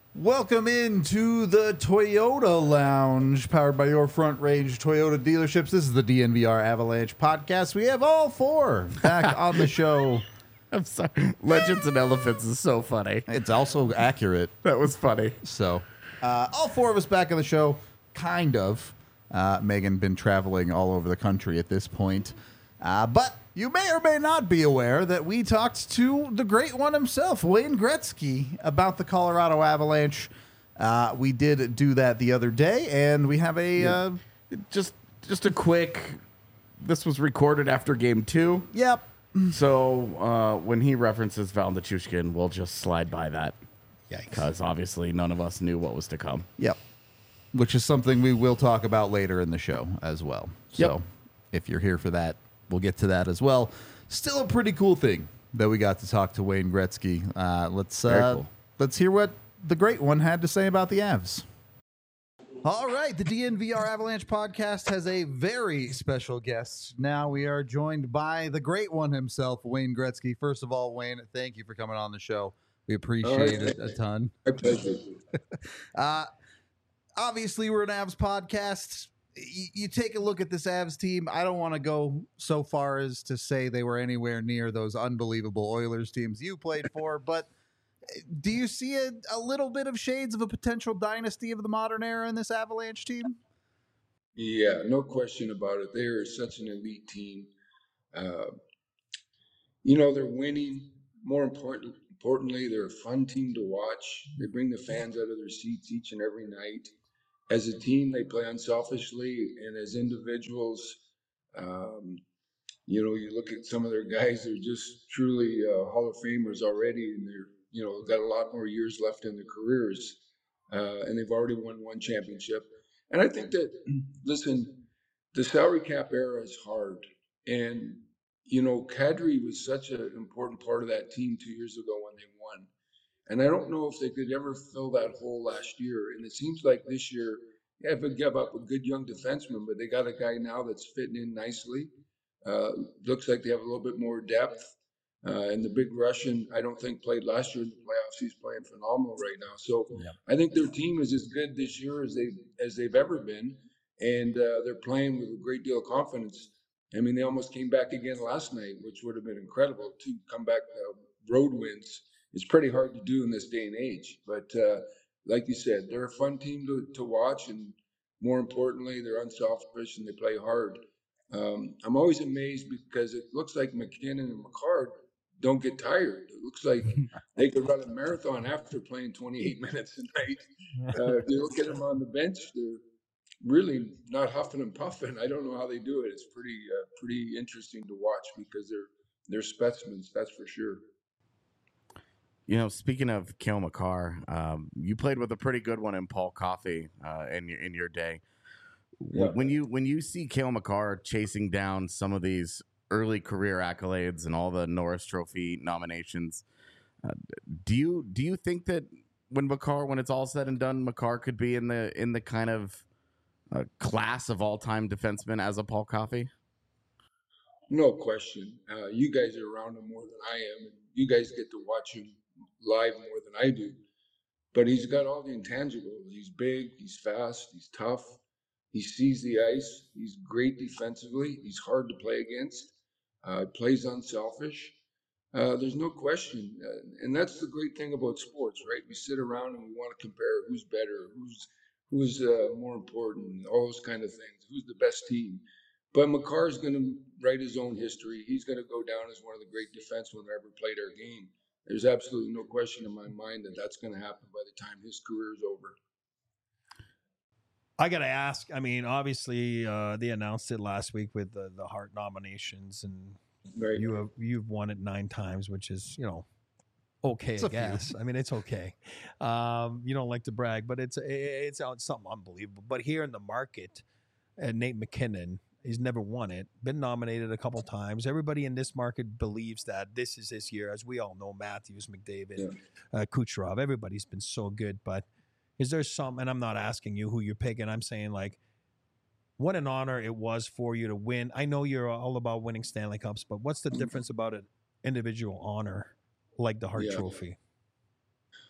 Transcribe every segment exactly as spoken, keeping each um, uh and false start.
Welcome into the Toyota Lounge, powered by your Front Range Toyota dealerships. This is the D N V R Avalanche podcast. We have all four back on the show. I'm sorry. Legends and Elephants is so funny. It's also accurate. That was funny. So, uh, all four of us back on the show, kind of. Uh, Megan been traveling all over the country at this point. Uh, but you may or may not be aware that we talked to the great one himself, Wayne Gretzky, about the Colorado Avalanche. Uh, we did do that the other day, and we have a... Yeah. Uh, just just a quick... This was recorded after game two. yep. So uh, when he references Val Nichushkin, we'll just slide by that. Because obviously none of us knew what was to come. Yep. Which is something we will talk about later in the show as well. So Yep. if you're here for that, we'll get to that as well. Still a pretty cool thing that we got to talk to Wayne Gretzky. Uh, let's uh, cool. let's hear what the great one had to say about the Avs. All right, the D N V R Avalanche podcast has a very special guest. Now we are joined by the great one himself, Wayne Gretzky. First of all, Wayne, thank you for coming on the show. We appreciate it a ton. My pleasure. uh, obviously, we're an Avs podcast. You, you take a look at this Avs team. I don't want to go so far as to say they were anywhere near those unbelievable Oilers teams you played for, but do you see a, a little bit of shades of a potential dynasty of the modern era in this Avalanche team? Yeah, no question about it. They are such an elite team. Uh, you know, they're winning. More important, importantly, they're a fun team to watch. They bring the fans out of their seats each and every night. As a team, they play unselfishly, and as individuals, um, you know, you look at some of their guys; they're just truly uh, Hall of Famers already, and they're, you know, got a lot more years left in their careers, uh, and they've already won one championship. And I think that, listen, the salary cap era is hard, and you know, Kadri was such an important part of that team two years ago when they won. And I don't know if they could ever fill that hole last year. And it seems like this year, yeah, if they give up a good young defenseman, but they got a guy now that's fitting in nicely. Uh, looks like they have a little bit more depth. Uh, and the big Russian, I don't think played last year in the playoffs. He's playing phenomenal right now. So yeah. I think their team is as good this year as they as they've ever been, and uh, they're playing with a great deal of confidence. I mean, they almost came back again last night, which would have been incredible. Two comeback uh, road wins. It's pretty hard to do in this day and age. But uh, like you said, they're a fun team to, to watch, and more importantly, they're unselfish and they play hard. Um, I'm always amazed because it looks like McKinnon and Makar don't get tired. It looks like they could run a marathon after playing twenty-eight minutes a night. Uh, if you look at them on the bench, they're really not huffing and puffing. I don't know how they do it. It's pretty uh, pretty interesting to watch because they're they're specimens, that's for sure. You know, speaking of Cale Makar, um, you played with a pretty good one in Paul Coffey uh, in your in your day. Yeah. When you when you see Cale Makar chasing down some of these early career accolades and all the Norris Trophy nominations, uh, do you do you think that when Makar, when it's all said and done, Makar could be in the in the kind of uh, class of all time defensemen as a Paul Coffey? No question. Uh, you guys are around him more than I am, and you guys get to watch him live more than I do. But he's got all the intangibles. He's big, he's fast, he's tough. He sees the ice. He's great defensively. He's hard to play against. Uh, plays unselfish. Uh, there's no question. Uh, and that's the great thing about sports, right? We sit around and we want to compare who's better, who's who's uh, more important, all those kind of things. Who's the best team? But Makar is going to write his own history. He's going to go down as one of the great defensemen that ever played our game. There's absolutely no question in my mind that that's going to happen by the time his career is over. I got to ask, I mean, obviously uh, they announced it last week with the, the Hart nominations, and right. you have, you've won it nine times, which is, you know, okay, it's I guess. I mean, it's okay. Um, you don't like to brag, but it's, it's something unbelievable. But here in the market, uh, Nate McKinnon, he's never won it, been nominated a couple times. Everybody in this market believes that this is his year. As we all know, Matthews, McDavid, yeah. uh, Kucherov, everybody's been so good, but is there some, and I'm not asking you who you're picking, I'm saying, like, what an honor it was for you to win. I know you're all about winning Stanley Cups, but what's the difference about an individual honor like the Hart yeah. Trophy?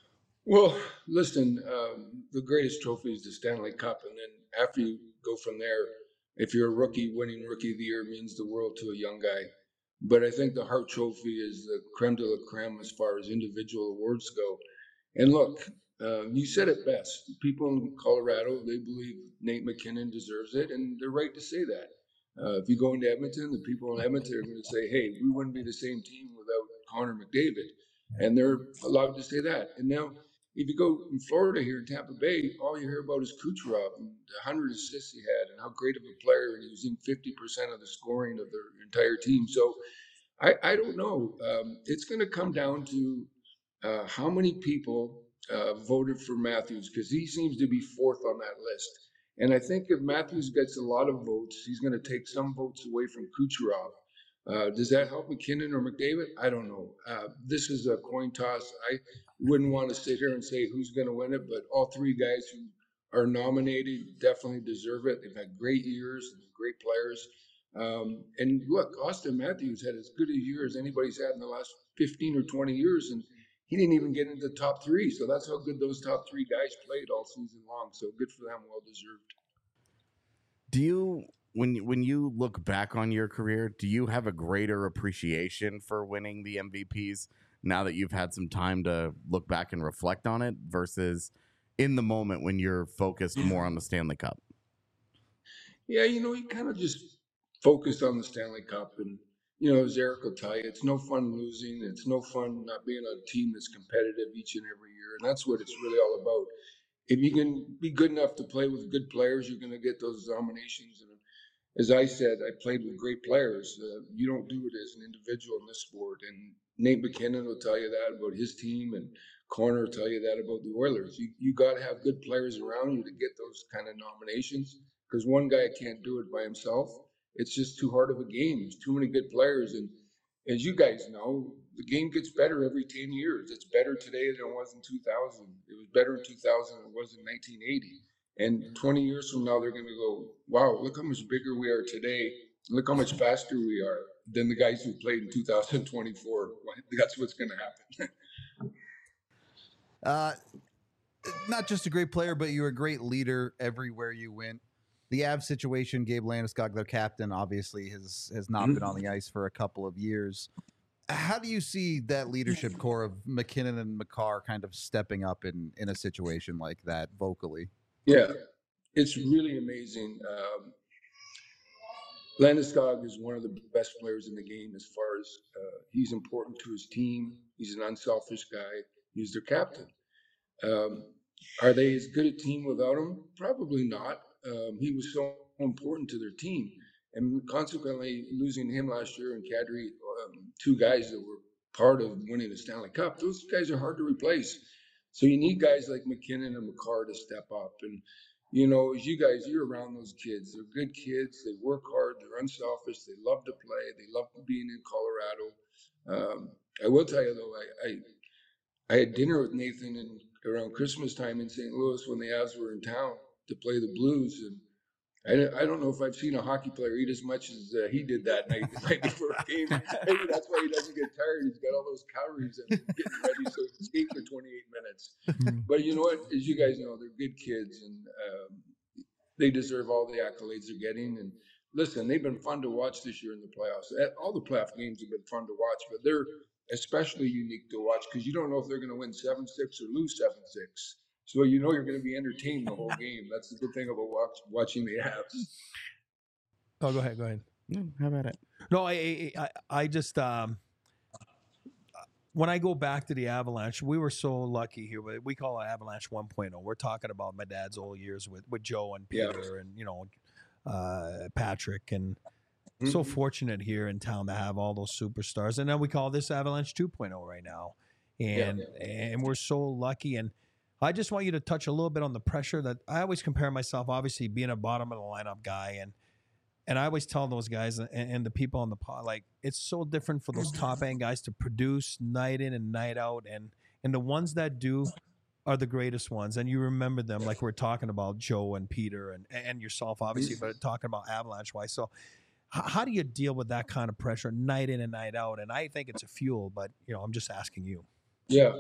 Well, listen, um, the greatest trophy is the Stanley Cup, and then after you go from there, if you're a rookie, winning Rookie of the Year means the world to a young guy. But I think the Hart Trophy is the creme de la creme as far as individual awards go. And look, uh, you said it best. People in Colorado, they believe Nate MacKinnon deserves it, and they're right to say that. Uh, if you go into Edmonton, the people in Edmonton are going to say, hey, we wouldn't be the same team without Connor McDavid. And they're allowed to say that. And now, if you go in Florida here in Tampa Bay, all you hear about is Kucherov and the one hundred assists he had and how great of a player, and he was in fifty percent of the scoring of their entire team. So I, I don't know. Um, it's going to come down to uh, how many people uh, voted for Matthews, because he seems to be fourth on that list. And I think if Matthews gets a lot of votes, he's going to take some votes away from Kucherov. Uh, does that help MacKinnon or McDavid? I don't know. Uh, this is a coin toss. I wouldn't want to sit here and say who's going to win it, but all three guys who are nominated definitely deserve it. They've had great years, great players. Um, and look, Austin Matthews had as good a year as anybody's had in the last fifteen or twenty years, and he didn't even get into the top three. So that's how good those top three guys played all season long. So good for them, well deserved. Do you, when when you look back on your career, do you have a greater appreciation for winning the M V Ps now that you've had some time to look back and reflect on it versus in the moment when you're focused more on the Stanley Cup? Yeah, you know, you kind of just focused on the Stanley Cup, and you know, as Eric will tell you, it's no fun losing. It's no fun not being on a team that's competitive each and every year, and that's what it's really all about. If you can be good enough to play with good players, you're going to get those nominations. And as I said, I played with great players. Uh, you don't do it as an individual in this sport. And Nate MacKinnon will tell you that about his team, and Connor will tell you that about the Oilers. You you got to have good players around you to get those kind of nominations, because one guy can't do it by himself. It's just too hard of a game. There's too many good players, and as you guys know, the game gets better every ten years. It's better today than it was in two thousand. It was better in two thousand than it was in nineteen eighty. And twenty years from now, they're going to go, wow, look how much bigger we are today. Look how much faster we are than the guys who played in two thousand twenty-four. That's what's going to happen. uh, not just a great player, but you're a great leader everywhere you went. The Avs situation, Gabe Landeskog, their captain, obviously has has not mm-hmm. been on the ice for a couple of years. How do you see that leadership core of MacKinnon and Makar kind of stepping up in, in a situation like that vocally? Yeah, it's really amazing. Um, Landeskog is one of the best players in the game as far as uh, he's important to his team. He's an unselfish guy. He's their captain. Um, are they as good a team without him? Probably not. Um, he was so important to their team. And consequently, losing him last year and Kadri, um, two guys that were part of winning the Stanley Cup, those guys are hard to replace. So you need guys like MacKinnon and Makar to step up. And, you know, as you guys, you're around those kids. They're good kids. They work hard. They're unselfish. They love to play. They love being in Colorado. Um, I will tell you, though, I, I, I had dinner with Nathan in, around Christmas time in Saint Louis when the Avs were in town to play the Blues. And I, I don't know if I've seen a hockey player eat as much as uh, he did that night, the night before a game. Maybe that's why he doesn't get tired. He's got all those calories and getting ready so he can skate for twenty-eight minutes. But you know what? As you guys know, they're good kids, and um, they deserve all the accolades they're getting. And listen, they've been fun to watch this year in the playoffs. All the playoff games have been fun to watch, but they're especially unique to watch because you don't know if they're going to win seven six or lose seven six. So you know you're going to be entertained the whole game. That's the good thing about watch, watching the Avs. Oh, go ahead. Go ahead. Yeah, how about it? No, I, I, I just um, when I go back to the Avalanche, we were so lucky here. We call it Avalanche one point oh. We're talking about my dad's old years with, with Joe and Peter yeah. and you know uh, Patrick, and mm-hmm. so fortunate here in town to have all those superstars. And then we call this Avalanche two point oh right now, and yeah, yeah. and we're so lucky. And I just want you to touch a little bit on the pressure that I always compare myself, obviously being a bottom of the lineup guy. And, and I always tell those guys and, and the people on the pod, like, it's so different for those top end guys to produce night in and night out. And, and the ones that do are the greatest ones. And you remember them, like we're talking about Joe and Peter and, and yourself, obviously, but talking about Avalanche wise. So h- how do you deal with that kind of pressure night in and night out? And I think it's a fuel, but you know, I'm just asking you. Yeah.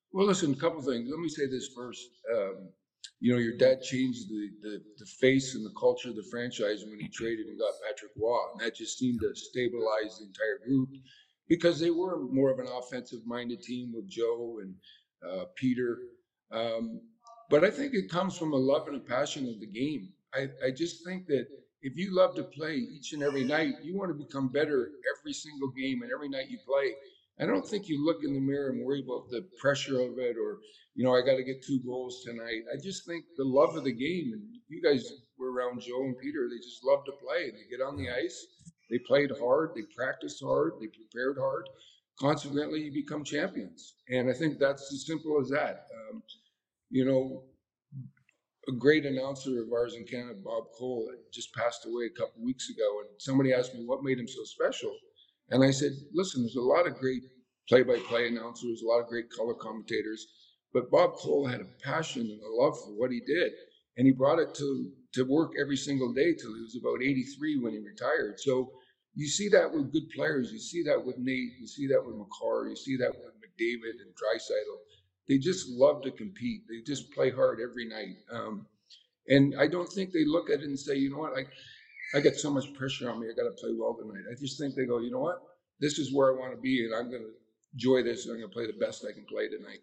Well, listen, a couple things. Let me say this first. Um, you know, your dad changed the, the, the face and the culture of the franchise when he traded and got Patrick Waugh. And that just seemed to stabilize the entire group because they were more of an offensive minded team with Joe and uh, Peter. Um, but I think it comes from a love and a passion of the game. I, I just think that if you love to play each and every night, you want to become better every single game and every night you play. I don't think you look in the mirror and worry about the pressure of it or, you know, I got to get two goals tonight. I just think the love of the game, and you guys were around Joe and Peter, they just love to play. They get on the ice, they played hard, they practiced hard, they prepared hard. Consequently, you become champions. And I think that's as simple as that. Um, you know, a great announcer of ours in Canada, Bob Cole, just passed away a couple of weeks ago. And somebody asked me what made him so special. And I said, listen, there's a lot of great play-by-play announcers, a lot of great color commentators, but Bob Cole had a passion and a love for what he did. And he brought it to, to work every single day till he was about eighty-three when he retired. So you see that with good players. You see that with Nate. You see that with McCarr. You see that with McDavid and Draisaitl. They just love to compete. They just play hard every night. Um, and I don't think they look at it and say, you know what, I, I got so much pressure on me. I got to play well tonight. I just think they go, you know what, this is where I want to be, and I'm going to enjoy this, and I'm going to play the best I can play tonight.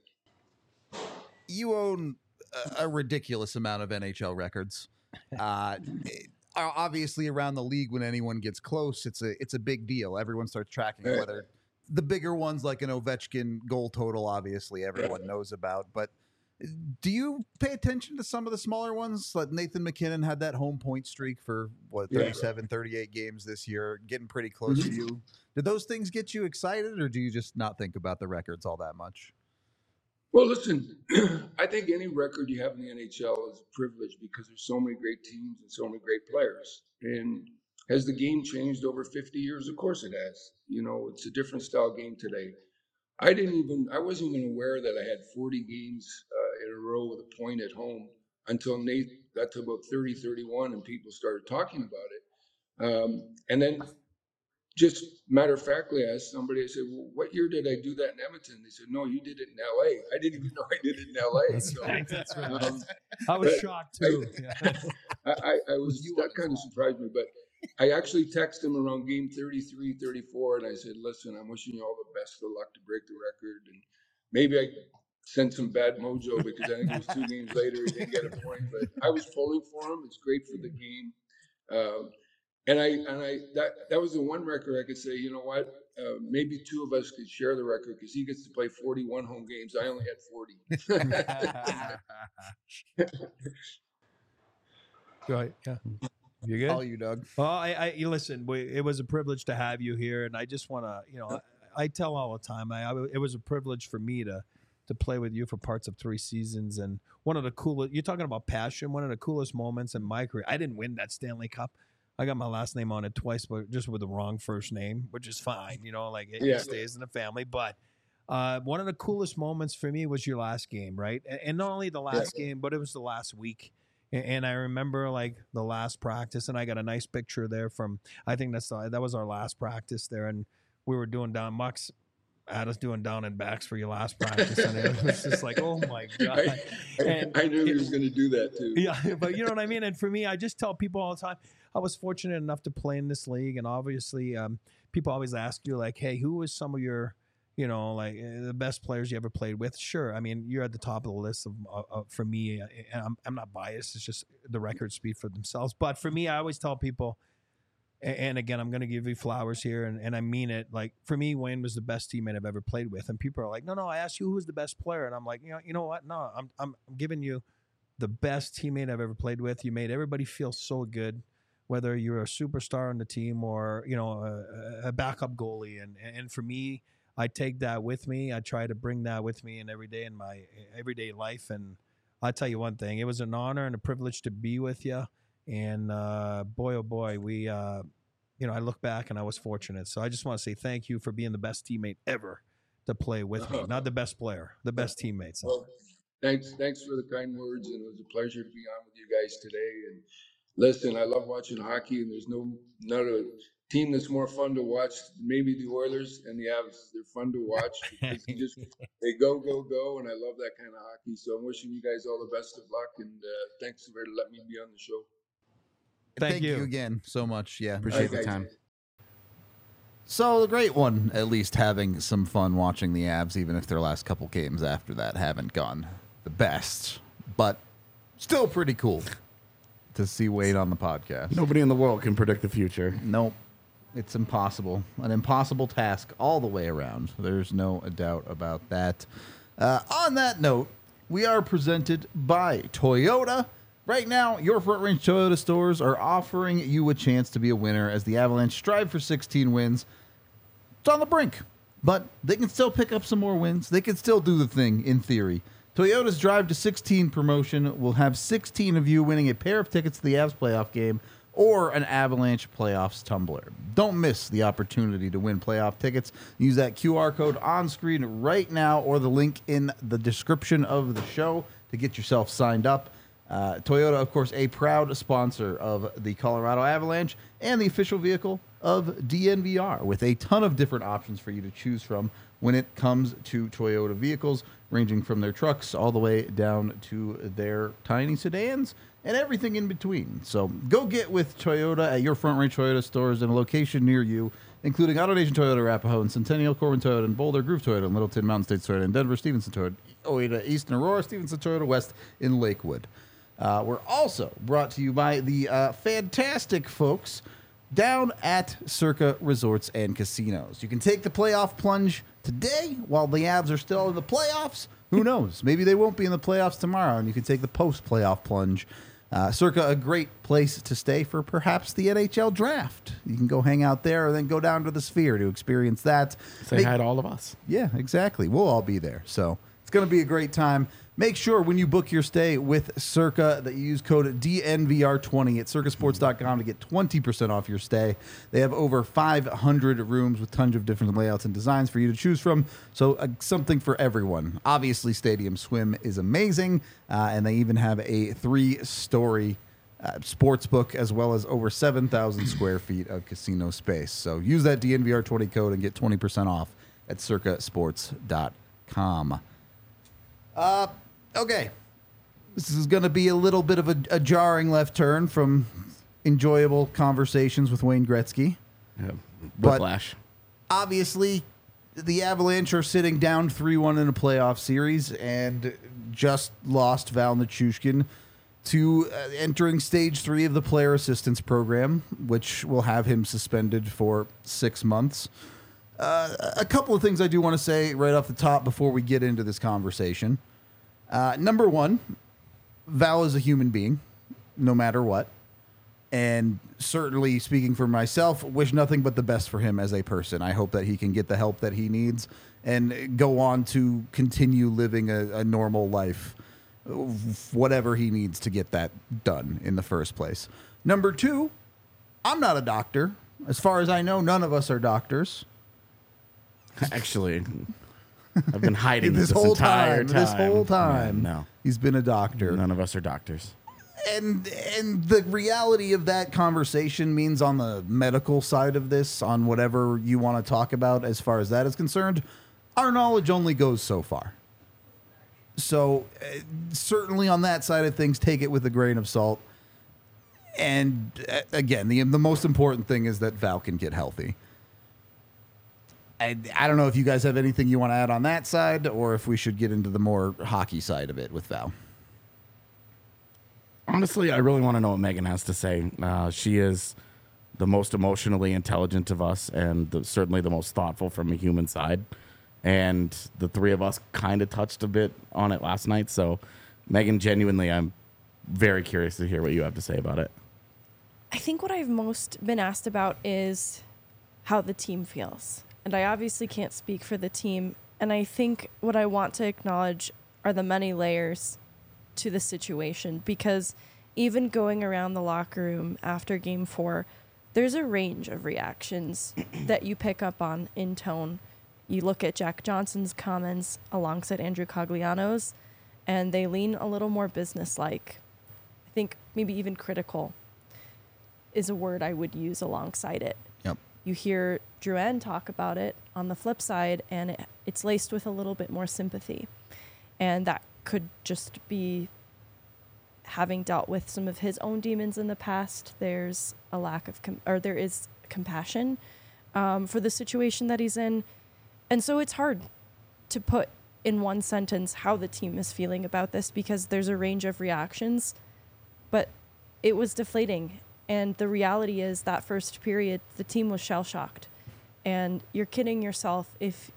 You own a, a ridiculous amount of N H L records. Uh, obviously, around the league, when anyone gets close, it's a it's a big deal. Everyone starts tracking whether the bigger ones, like an Ovechkin goal total, obviously everyone knows about. But do you pay attention to some of the smaller ones? Like Nathan MacKinnon had that home point streak for, what, thirty-seven, yeah. thirty-eight games this year, getting pretty close mm-hmm. to you. Did those things get you excited, or do you just not think about the records all that much? Well, listen, I think any record you have in the N H L is a privilege because there's so many great teams and so many great players. And has the game changed over fifty years? Of course it has. You know, it's a different style game today. I didn't even, I wasn't even aware that I had forty games uh, in a row with a point at home until Nate got to about thirty, thirty-one and people started talking about it. Um, and then just matter of factly, I asked somebody, I said, well, what year did I do that in Edmonton? They said, no, you did it in L A. I didn't even know I did it in L A. That's so, right. That's right. Um, I was shocked too. I, I, I, I was, that kind of surprised me, but I actually texted him around game thirty-three, thirty-four, and I said, listen, I'm wishing you all the best of luck to break the record. And maybe I sent some bad mojo because I think it was two games later, he didn't get a point, but I was pulling for him. It's great for the game. Um, And I and I that that was the one record I could say, you know what, uh, maybe two of us could share the record because he gets to play forty-one home games. I only had forty. Right? Yeah. You good? All you, Doug. Well, I, I you listen. We, it was a privilege to have you here, and I just want to, you know, I, I tell all the time. I, I it was a privilege for me to to play with you for parts of three seasons, and one of the coolest. You're talking about passion. One of the coolest moments in my career. I didn't win that Stanley Cup. I got my last name on it twice, but just with the wrong first name, which is fine. You know, like it, yeah. it stays in the family. But uh, one of the coolest moments for me was your last game, right? And, and not only the last yeah. game, but it was the last week. And, and I remember like the last practice, and I got a nice picture there from, I think that's the, that was our last practice there. And we were doing down, Mucks had us doing down and backs for your last practice. And it was just like, oh my God. I, I, I knew it, he was going to do that too. Yeah, but you know what I mean? And for me, I just tell people all the time, I was fortunate enough to play in this league, and obviously, um, people always ask you, like, "Hey, who was some of your, you know, like uh, the best players you ever played with?" Sure, I mean, you're at the top of the list of, uh, uh, for me, uh, and I'm I'm not biased. It's just the records speak for themselves. But for me, I always tell people, and, and again, I'm going to give you flowers here, and, and I mean it. Like for me, Wayne was the best teammate I've ever played with, and people are like, "No, no, I asked you who's the best player," and I'm like, you know, you know what? No, I'm I'm giving you the best teammate I've ever played with. You made everybody feel so good, whether you're a superstar on the team or, you know, a, a backup goalie. And, and for me, I take that with me. I try to bring that with me in every day in my everyday life. And I'll tell you one thing, it was an honor and a privilege to be with you. And uh, boy, oh boy, we, uh, you know, I look back and I was fortunate. So I just want to say thank you for being the best teammate ever to play with me. Not the best player, the best teammate. So. Well, thanks, thanks for the kind words. And it was a pleasure to be on with you guys today. And listen, I love watching hockey, and there's no not a team that's more fun to watch. Maybe the Oilers and the Avs. They're fun to watch because they just they go go go, and I love that kind of hockey. So I'm wishing you guys all the best of luck, and uh, thanks for letting me be on the show. Thank, Thank you. you again so much. Yeah, appreciate the time. So the great one, at least having some fun watching the Avs, even if their last couple games after that haven't gone the best, but still pretty cool to see Wade on the podcast. Nobody in the world can predict the future. Nope. It's impossible. An impossible task all the way around. There's no doubt about that. Uh, on that note, we are presented by Toyota. Right now, your Front Range Toyota stores are offering you a chance to be a winner as the Avalanche strive for sixteen wins. It's on the brink, but they can still pick up some more wins. They can still do the thing, in theory. Toyota's Drive to sixteen promotion will have sixteen of you winning a pair of tickets to the Avs playoff game or an Avalanche playoffs tumbler. Don't miss the opportunity to win playoff tickets. Use that Q R code on screen right now or the link in the description of the show to get yourself signed up. Uh, Toyota, of course, a proud sponsor of the Colorado Avalanche and the official vehicle of D N V R, with a ton of different options for you to choose from when it comes to Toyota vehicles, ranging from their trucks all the way down to their tiny sedans and everything in between. So go get with Toyota at your Front Range Toyota stores in a location near you, including AutoNation Toyota, Arapahoe, and Centennial, Corbin Toyota, and Boulder, Groove Toyota, and Littleton, Mountain States Toyota, and Denver, Stevenson Toyota, Oida, East, and Aurora, Stevenson Toyota, West, in Lakewood. Uh, we're also brought to you by the uh, fantastic folks down at Circa Resorts and Casinos. You can take the playoff plunge today while the Avs are still in the playoffs. Who knows? Maybe they won't be in the playoffs tomorrow, and you can take the post-playoff plunge. Uh, Circa, a great place to stay for perhaps the N H L draft. You can go hang out there and then go down to the Sphere to experience that. Say Make, hi to all of us. Yeah, exactly. We'll all be there. So it's going to be a great time. Make sure when you book your stay with Circa that you use code D N V R twenty at circa sports dot com to get twenty percent off your stay. They have over five hundred rooms with tons of different layouts and designs for you to choose from, so uh, something for everyone. Obviously, Stadium Swim is amazing, uh, and they even have a three-story uh, sports book as well as over seven thousand square feet of casino space. So use that D N V R twenty code and get twenty percent off at circa sports dot com. Uh... Okay, this is going to be a little bit of a, a jarring left turn from enjoyable conversations with Wayne Gretzky. Yeah, whiplash. But obviously, the Avalanche are sitting down three one in a playoff series and just lost Val Nichushkin to uh, entering stage three of the player assistance program, which will have him suspended for six months. Uh, a couple of things I do want to say right off the top before we get into this conversation. Uh, number one, Val is a human being, no matter what. And certainly, speaking for myself, wish nothing but the best for him as a person. I hope that he can get the help that he needs and go on to continue living a, a normal life, whatever he needs to get that done in the first place. Number two, I'm not a doctor. As far as I know, none of us are doctors. Actually... I've been hiding this, this whole entire time, time. This whole time, yeah, no, he's been a doctor. None of us are doctors. And and the reality of that conversation means on the medical side of this, on whatever you want to talk about as far as that is concerned, our knowledge only goes so far. So uh, certainly on that side of things, take it with a grain of salt. And uh, again, the the most important thing is that Val can get healthy. I, I don't know if you guys have anything you want to add on that side or if we should get into the more hockey side of it with Val. Honestly, I really want to know what Megan has to say. Uh, she is the most emotionally intelligent of us and the, certainly the most thoughtful from a human side. And the three of us kind of touched a bit on it last night. So, Megan, genuinely, I'm very curious to hear what you have to say about it. I think what I've most been asked about is how the team feels. And I obviously can't speak for the team. And I think what I want to acknowledge are the many layers to the situation. Because even going around the locker room after game four, there's a range of reactions that you pick up on in tone. You look at Jack Johnson's comments alongside Andrew Cogliano's, and they lean a little more businesslike. I think maybe even critical is a word I would use alongside it. Yep. you hear Drouin talk about it on the flip side, and it, it's laced with a little bit more sympathy. And that could just be having dealt with some of his own demons in the past. There's a lack of, com- or there is compassion um, for the situation that he's in. And so it's hard to put in one sentence how the team is feeling about this, because there's a range of reactions, but it was deflating. And the reality is that first period, the team was shell-shocked. And you're kidding yourself if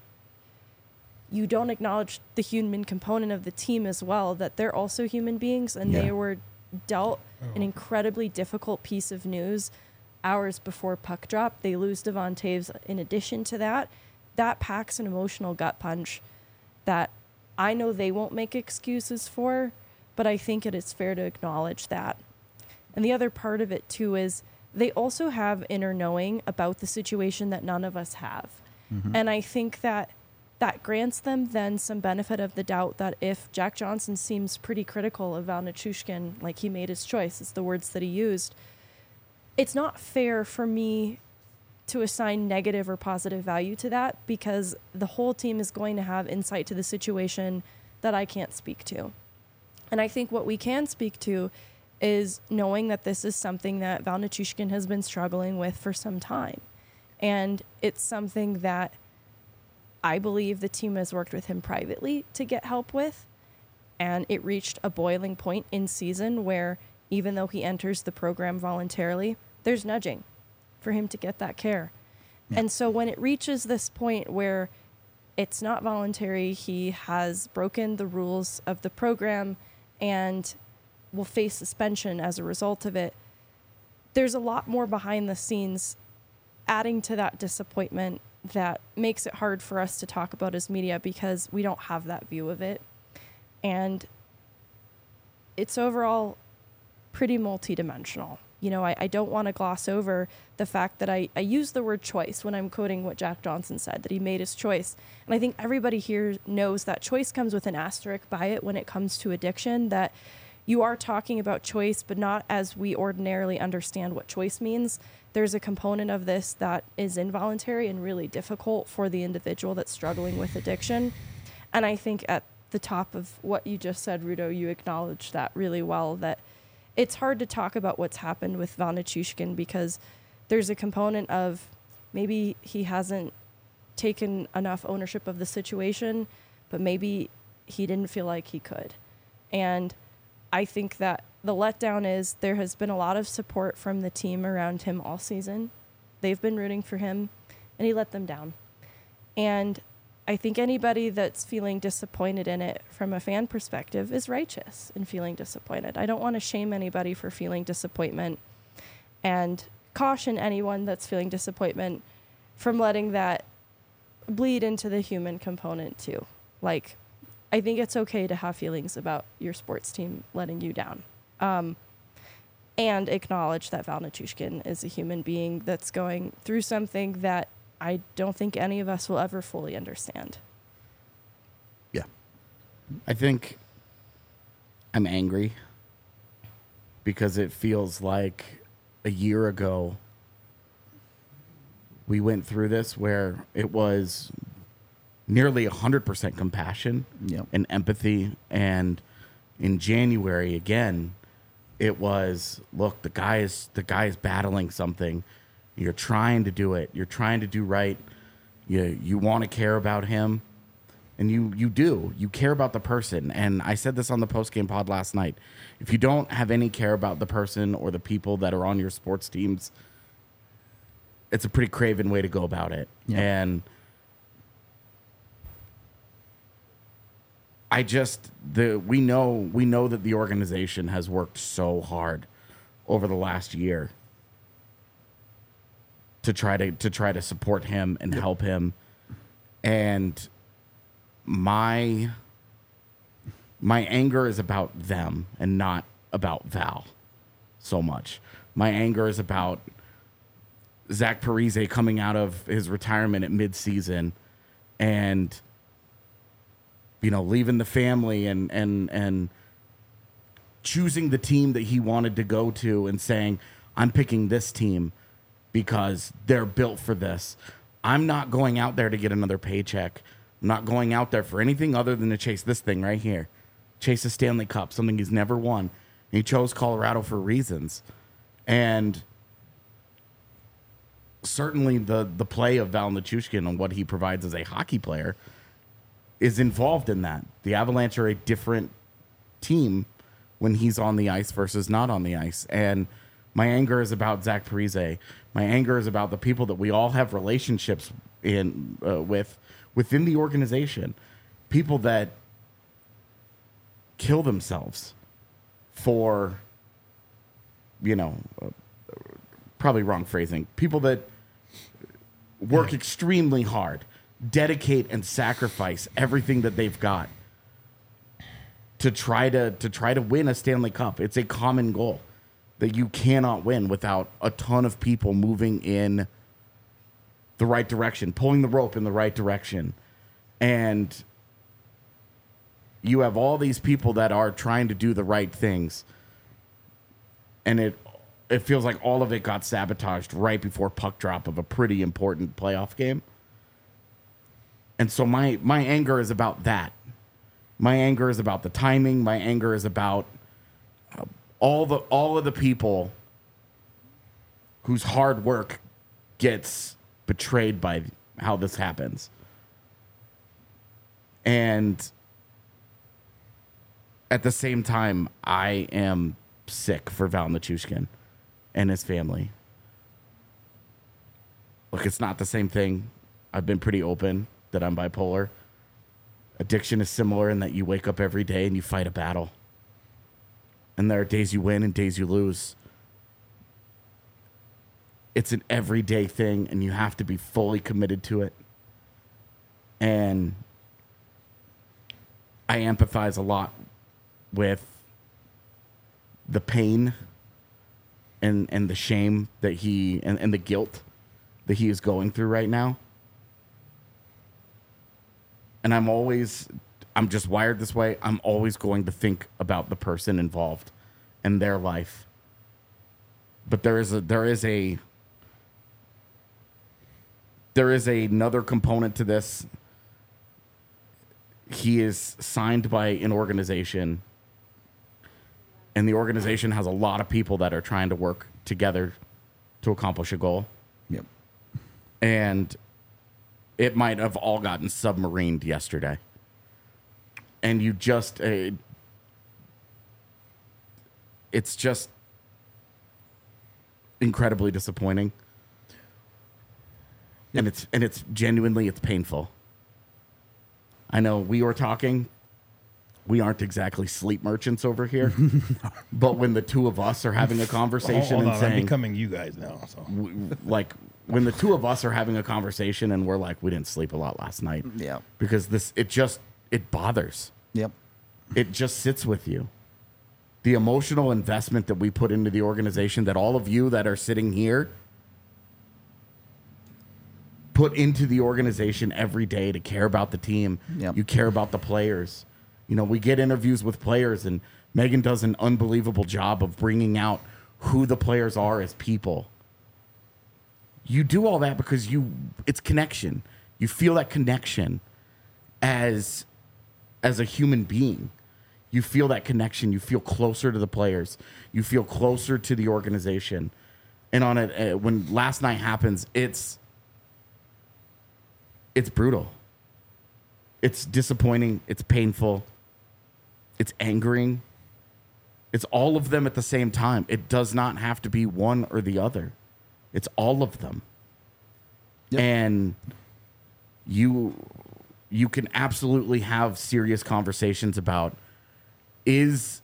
you don't acknowledge the human component of the team as well, that they're also human beings, and yeah. they were dealt oh. an incredibly difficult piece of news hours before puck drop. They lose Devon Toews in addition to that. That packs an emotional gut punch that I know they won't make excuses for, but I think it is fair to acknowledge that. And the other part of it, too, is they also have inner knowing about the situation that none of us have. Mm-hmm. And I think that that grants them then some benefit of the doubt that if Jack Johnson seems pretty critical of Val Nichushkin, like he made his choice, it's the words that he used, it's not fair for me to assign negative or positive value to that, because the whole team is going to have insight to the situation that I can't speak to. And I think what we can speak to is knowing that this is something that Val Nichushkin has been struggling with for some time. And it's something that I believe the team has worked with him privately to get help with. And it reached a boiling point in season where even though he enters the program voluntarily, there's nudging for him to get that care. Yeah. And so when it reaches this point where it's not voluntary, he has broken the rules of the program and will face suspension as a result of it, there's a lot more behind the scenes adding to that disappointment that makes it hard for us to talk about as media, because we don't have that view of it. And it's overall pretty multidimensional. You know, I, I don't want to gloss over the fact that I, I use the word choice when I'm quoting what Jack Johnson said, that he made his choice. And I think everybody here knows that choice comes with an asterisk by it when it comes to addiction, that you are talking about choice, but not as we ordinarily understand what choice means. There's a component of this that is involuntary and really difficult for the individual that's struggling with addiction. And I think at the top of what you just said, Rudo, you acknowledged that really well, that it's hard to talk about what's happened with Val Nichushkin because there's a component of maybe he hasn't taken enough ownership of the situation, but maybe he didn't feel like he could. And I think that the letdown is there has been a lot of support from the team around him all season. They've been rooting for him, and he let them down. And I think anybody that's feeling disappointed in it from a fan perspective is righteous in feeling disappointed. I don't want to shame anybody for feeling disappointment, and caution anyone that's feeling disappointment from letting that bleed into the human component too. Like, I think it's okay to have feelings about your sports team letting you down. Um, and acknowledge that Val Nichushkin is a human being that's going through something that I don't think any of us will ever fully understand. Yeah. I think I'm angry because it feels like a year ago we went through this where it was nearly one hundred percent compassion yep. and empathy. And in January, again, it was, look, the guy is the guy is battling something. You're trying to do it. You're trying to do right. You you want to care about him. And you you do. You care about the person. And I said this on the postgame pod last night. If you don't have any care about the person or the people that are on your sports teams, it's a pretty craven way to go about it. Yeah. And I just the we know we know that the organization has worked so hard over the last year to try to to try to support him and yep. help him. And my my anger is about them and not about Val so much. My anger is about Zach Parise coming out of his retirement at midseason and, you know, leaving the family and and and choosing the team that he wanted to go to and saying, I'm picking this team. because they're built for this. I'm not going out there to get another paycheck. I'm not going out there for anything other than to chase this thing right here. Chase a Stanley Cup, something he's never won. And he chose Colorado for reasons. And certainly the, the play of Val Nichushkin and what he provides as a hockey player is involved in that. The Avalanche are a different team when he's on the ice versus not on the ice. And my anger is about Zach Parise. My anger is about the people that we all have relationships in uh, with within the organization. People that kill themselves for, you know, uh, probably wrong phrasing. People that work extremely hard, dedicate and sacrifice everything that they've got to try to to try to win a Stanley Cup. It's a common goal that you cannot win without a ton of people moving in the right direction, pulling the rope in the right direction. And you have all these people that are trying to do the right things. And it it feels like all of it got sabotaged right before puck drop of a pretty important playoff game. And so my my anger is about that. My anger is about the timing. My anger is about uh, all the all of the people whose hard work gets betrayed by how this happens. And at the same time, I am sick for Val Nichushkin and his family. Look, it's not the same thing. I've been pretty open that I'm bipolar. Addiction is similar in that you wake up every day and you fight a battle. And there are days you win and days you lose. It's an everyday thing, and you have to be fully committed to it. And I empathize a lot with the pain and, and the shame that he, and, and the guilt that he is going through right now. And I'm always, I'm just wired this way. I'm always going to think about the person involved and their life. But there is a, there is a, there is a, another component to this. He is signed by an organization, and the organization has a lot of people that are trying to work together to accomplish a goal. Yep. And it might have all gotten submarined yesterday. And you just, uh, it's just incredibly disappointing. Yep. And it's, and it's genuinely, it's painful. I know we were talking, we aren't exactly sleep merchants over here, but when the two of us are having a conversation Hold and on, saying, I'm becoming you guys now. So. w- like, when the two of us are having a conversation and we're like, we didn't sleep a lot last night. Yeah. Because this, it just, it bothers. Yep. It just sits with you. The emotional investment that we put into the organization, that all of you that are sitting here put into the organization every day to care about the team. Yep. You care about the players. You know, we get interviews with players, and Megan does an unbelievable job of bringing out who the players are as people. You do all that because you, it's connection. You feel that connection as, as a human being. You feel that connection. You feel closer to the players. You feel closer to the organization. And on it, uh, when last night happens, it's, it's brutal. It's disappointing. It's painful. It's angering. It's all of them at the same time. It does not have to be one or the other. It's all of them. Yep. And you you can absolutely have serious conversations about is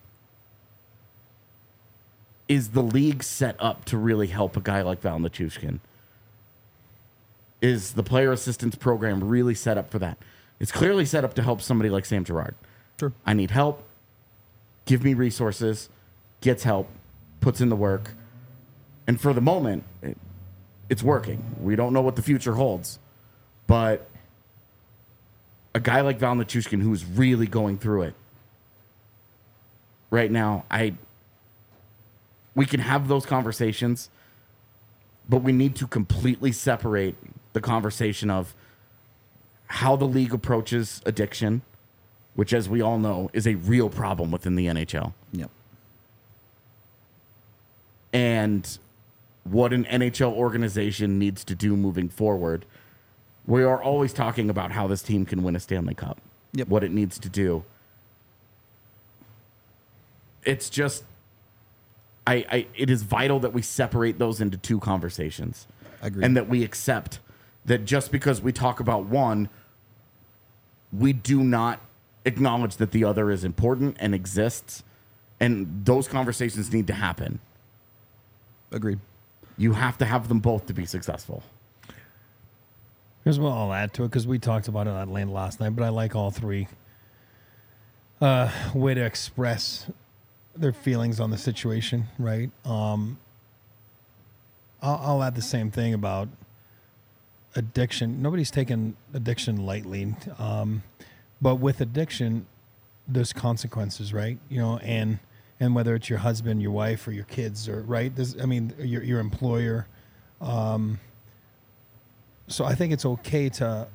is the league set up to really help a guy like Val Nichushkin? Is the player assistance program really set up for that? It's clearly set up to help somebody like Sam Girard. Sure. I need help. Give me resources. Gets help. Puts in the work. And for the moment, it, it's working. We don't know what the future holds. But a guy like Val Nichushkin, who's really going through it right now, I we can have those conversations. But we need to completely separate the conversation of how the league approaches addiction, which, as we all know, is a real problem within the N H L. Yep. And what an N H L organization needs to do moving forward. We are always talking about how this team can win a Stanley Cup. Yep. What it needs to do. It's just, I, I, it is vital that we separate those into two conversations. Agreed. And that we accept that just because we talk about one, we do not acknowledge that the other is important and exists. And those conversations need to happen. Agreed. You have to have them both to be successful. Here's what I'll add to it, because we talked about it at length last night, but I like all three. Uh, way to express their feelings on the situation, right? Um, I'll, I'll add the same thing about addiction. Nobody's taken addiction lightly, um, but with addiction, there's consequences, right? You know, and and whether it's your husband, your wife, or your kids, or right, there's, I mean, your your employer. Um, so I think it's okay to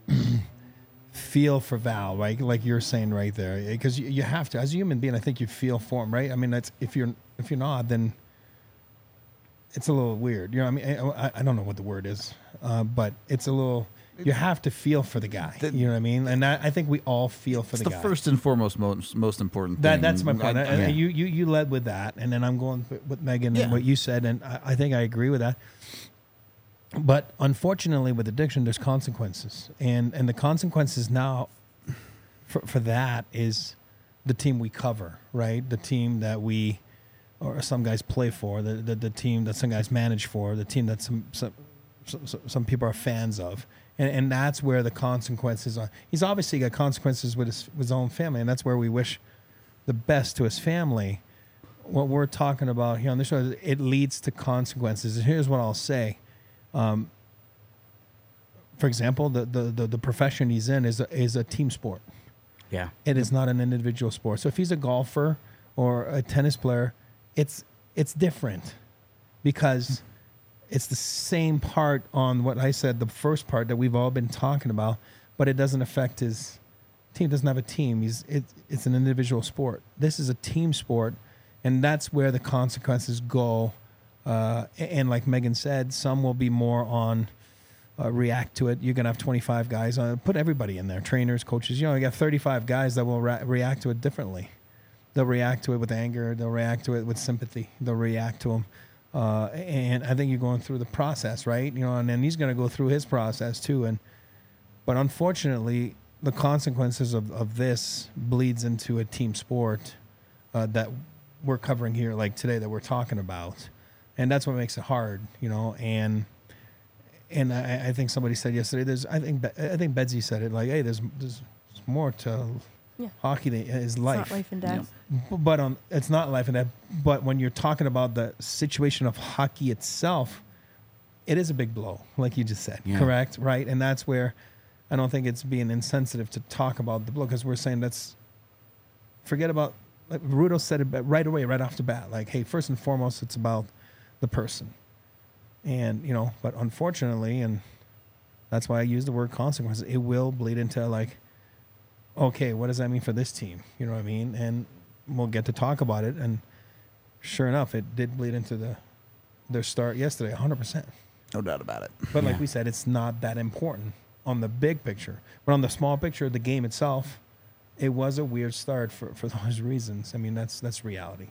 feel for Val, right? Like you're saying right there, because you, you have to, as a human being. I think you feel for him, right? I mean, that's if you're if you're not, then it's a little weird. You know, I mean, I, I don't know what the word is, uh, but it's a little. You have to feel for the guy. The, you know what I mean? And I, I think we all feel for it's the, the guy. First and foremost, most most important thing. That that's my point. I, I, yeah. You you you led with that, and then I'm going with Megan Yeah. and what you said, and I, I think I agree with that. But unfortunately, with addiction, there's consequences, and and the consequences now for for that is the team we cover, right? The team that we or some guys play for, the the, the team that some guys manage for, the team that some some some, some people are fans of. And, and that's where the consequences are. He's obviously got consequences with his, with his own family, and that's where we wish the best to his family. What we're talking about here on this show, is it leads to consequences. And here's what I'll say. Um, for example, the, the, the, the profession he's in is a, is a team sport. Yeah. It is not an individual sport. So if he's a golfer or a tennis player, it's it's different because it's the same part on what I said, the first part that we've all been talking about, but it doesn't affect his team. Doesn't have a team. He's it, it's an individual sport. This is a team sport, and that's where the consequences go. Uh, and like Megan said, some will be more on uh, react to it. You're gonna have twenty-five guys. Uh, put everybody in there, trainers, coaches. You know, you got thirty-five guys that will ra- react to it differently. They'll react to it with anger. They'll react to it with sympathy. They'll react to them. Uh, and I think you're going through the process, right? You know, and then he's going to go through his process too. And but unfortunately, the consequences of, of this bleeds into a team sport uh, that we're covering here, like today, that we're talking about, and that's what makes it hard, you know. And and I, I think somebody said yesterday, there's I think I think Bedsy said it, like, hey, there's there's more to yeah. hockey than is life. It's not life and death. Yeah. But on, it's not life and death. But when you're talking about the situation of hockey itself, it is a big blow, like you just said, yeah. correct? Right? And that's where I don't think it's being insensitive to talk about the blow, because we're saying let's forget about, like Rudo said it right away, right off the bat, like, hey, first and foremost, it's about the person. And, you know, but unfortunately, and that's why I use the word consequences, it will bleed into like, okay, what does that mean for this team? You know what I mean? And we'll get to talk about it. And sure enough, it did bleed into the their start yesterday, one hundred percent. No doubt about it. But yeah. like we said, it's not that important on the big picture. But on the small picture, the game itself, it was a weird start for, for those reasons. I mean, that's that's reality.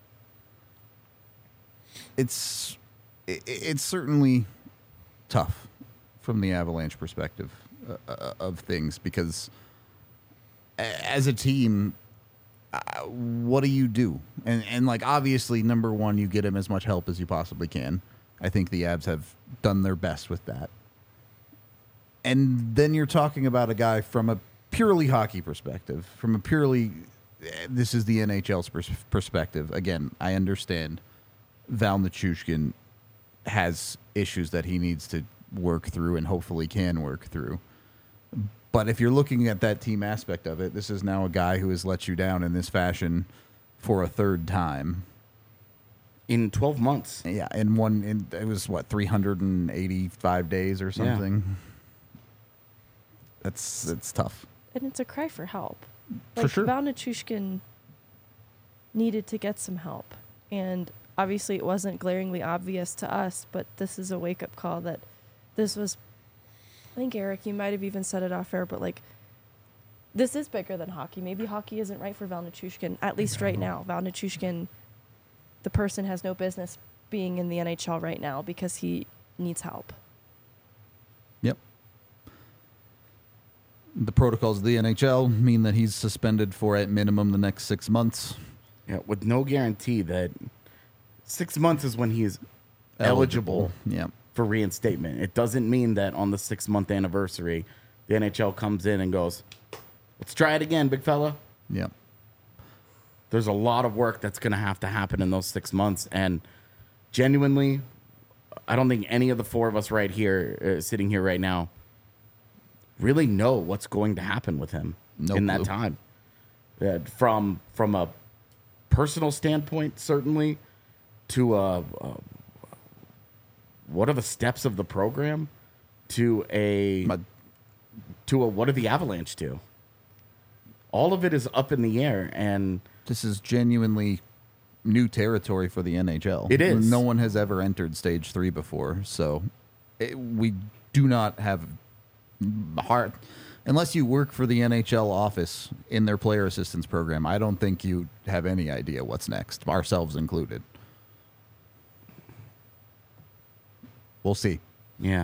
It's it, it's certainly tough from the Avalanche perspective uh, of things, because as a team, uh, what do you do? And and like, obviously, number one, you get him as much help as you possibly can. I think the Avs have done their best with that. And then you're talking about a guy from a purely hockey perspective, from a purely, this is the N H L's pers- perspective. Again, I understand Val Nichushkin has issues that he needs to work through and hopefully can work through. But if you're looking at that team aspect of it, this is now a guy who has let you down in this fashion for a third time. in twelve months. Yeah, in one, in, it was what, three hundred eighty-five days or something. Yeah. That's it's tough. And it's a cry for help. For like, sure. Val Nichushkin needed to get some help. And obviously it wasn't glaringly obvious to us, but this is a wake-up call that this was, I think, Eric, you might have even said it off air, but like, this is bigger than hockey. Maybe hockey isn't right for Val Nichushkin, at least right now. Val Nichushkin, the person, has no business being in the N H L right now because he needs help. Yep. The protocols of the N H L mean that he's suspended for, at minimum, the next six months. Yeah, with no guarantee that six months is when he is eligible, eligible yeah. for reinstatement. It doesn't mean that on the six-month anniversary, the N H L comes in and goes, let's try it again, big fella. Yeah. There's a lot of work that's going to have to happen in those six months. And genuinely, I don't think any of the four of us right here, uh, sitting here right now, really know what's going to happen with him no in clue. that time. Uh, from from a personal standpoint, certainly, to a, a, what are the steps of the program, to a My, to a what are the Avalanche do? All of it is up in the air, and this is genuinely new territory for the N H L. It is. No one has ever entered stage three before, so it, we do not have hard. Unless you work for the N H L office in their player assistance program, I don't think you have any idea what's next, ourselves included. We'll see. yeah.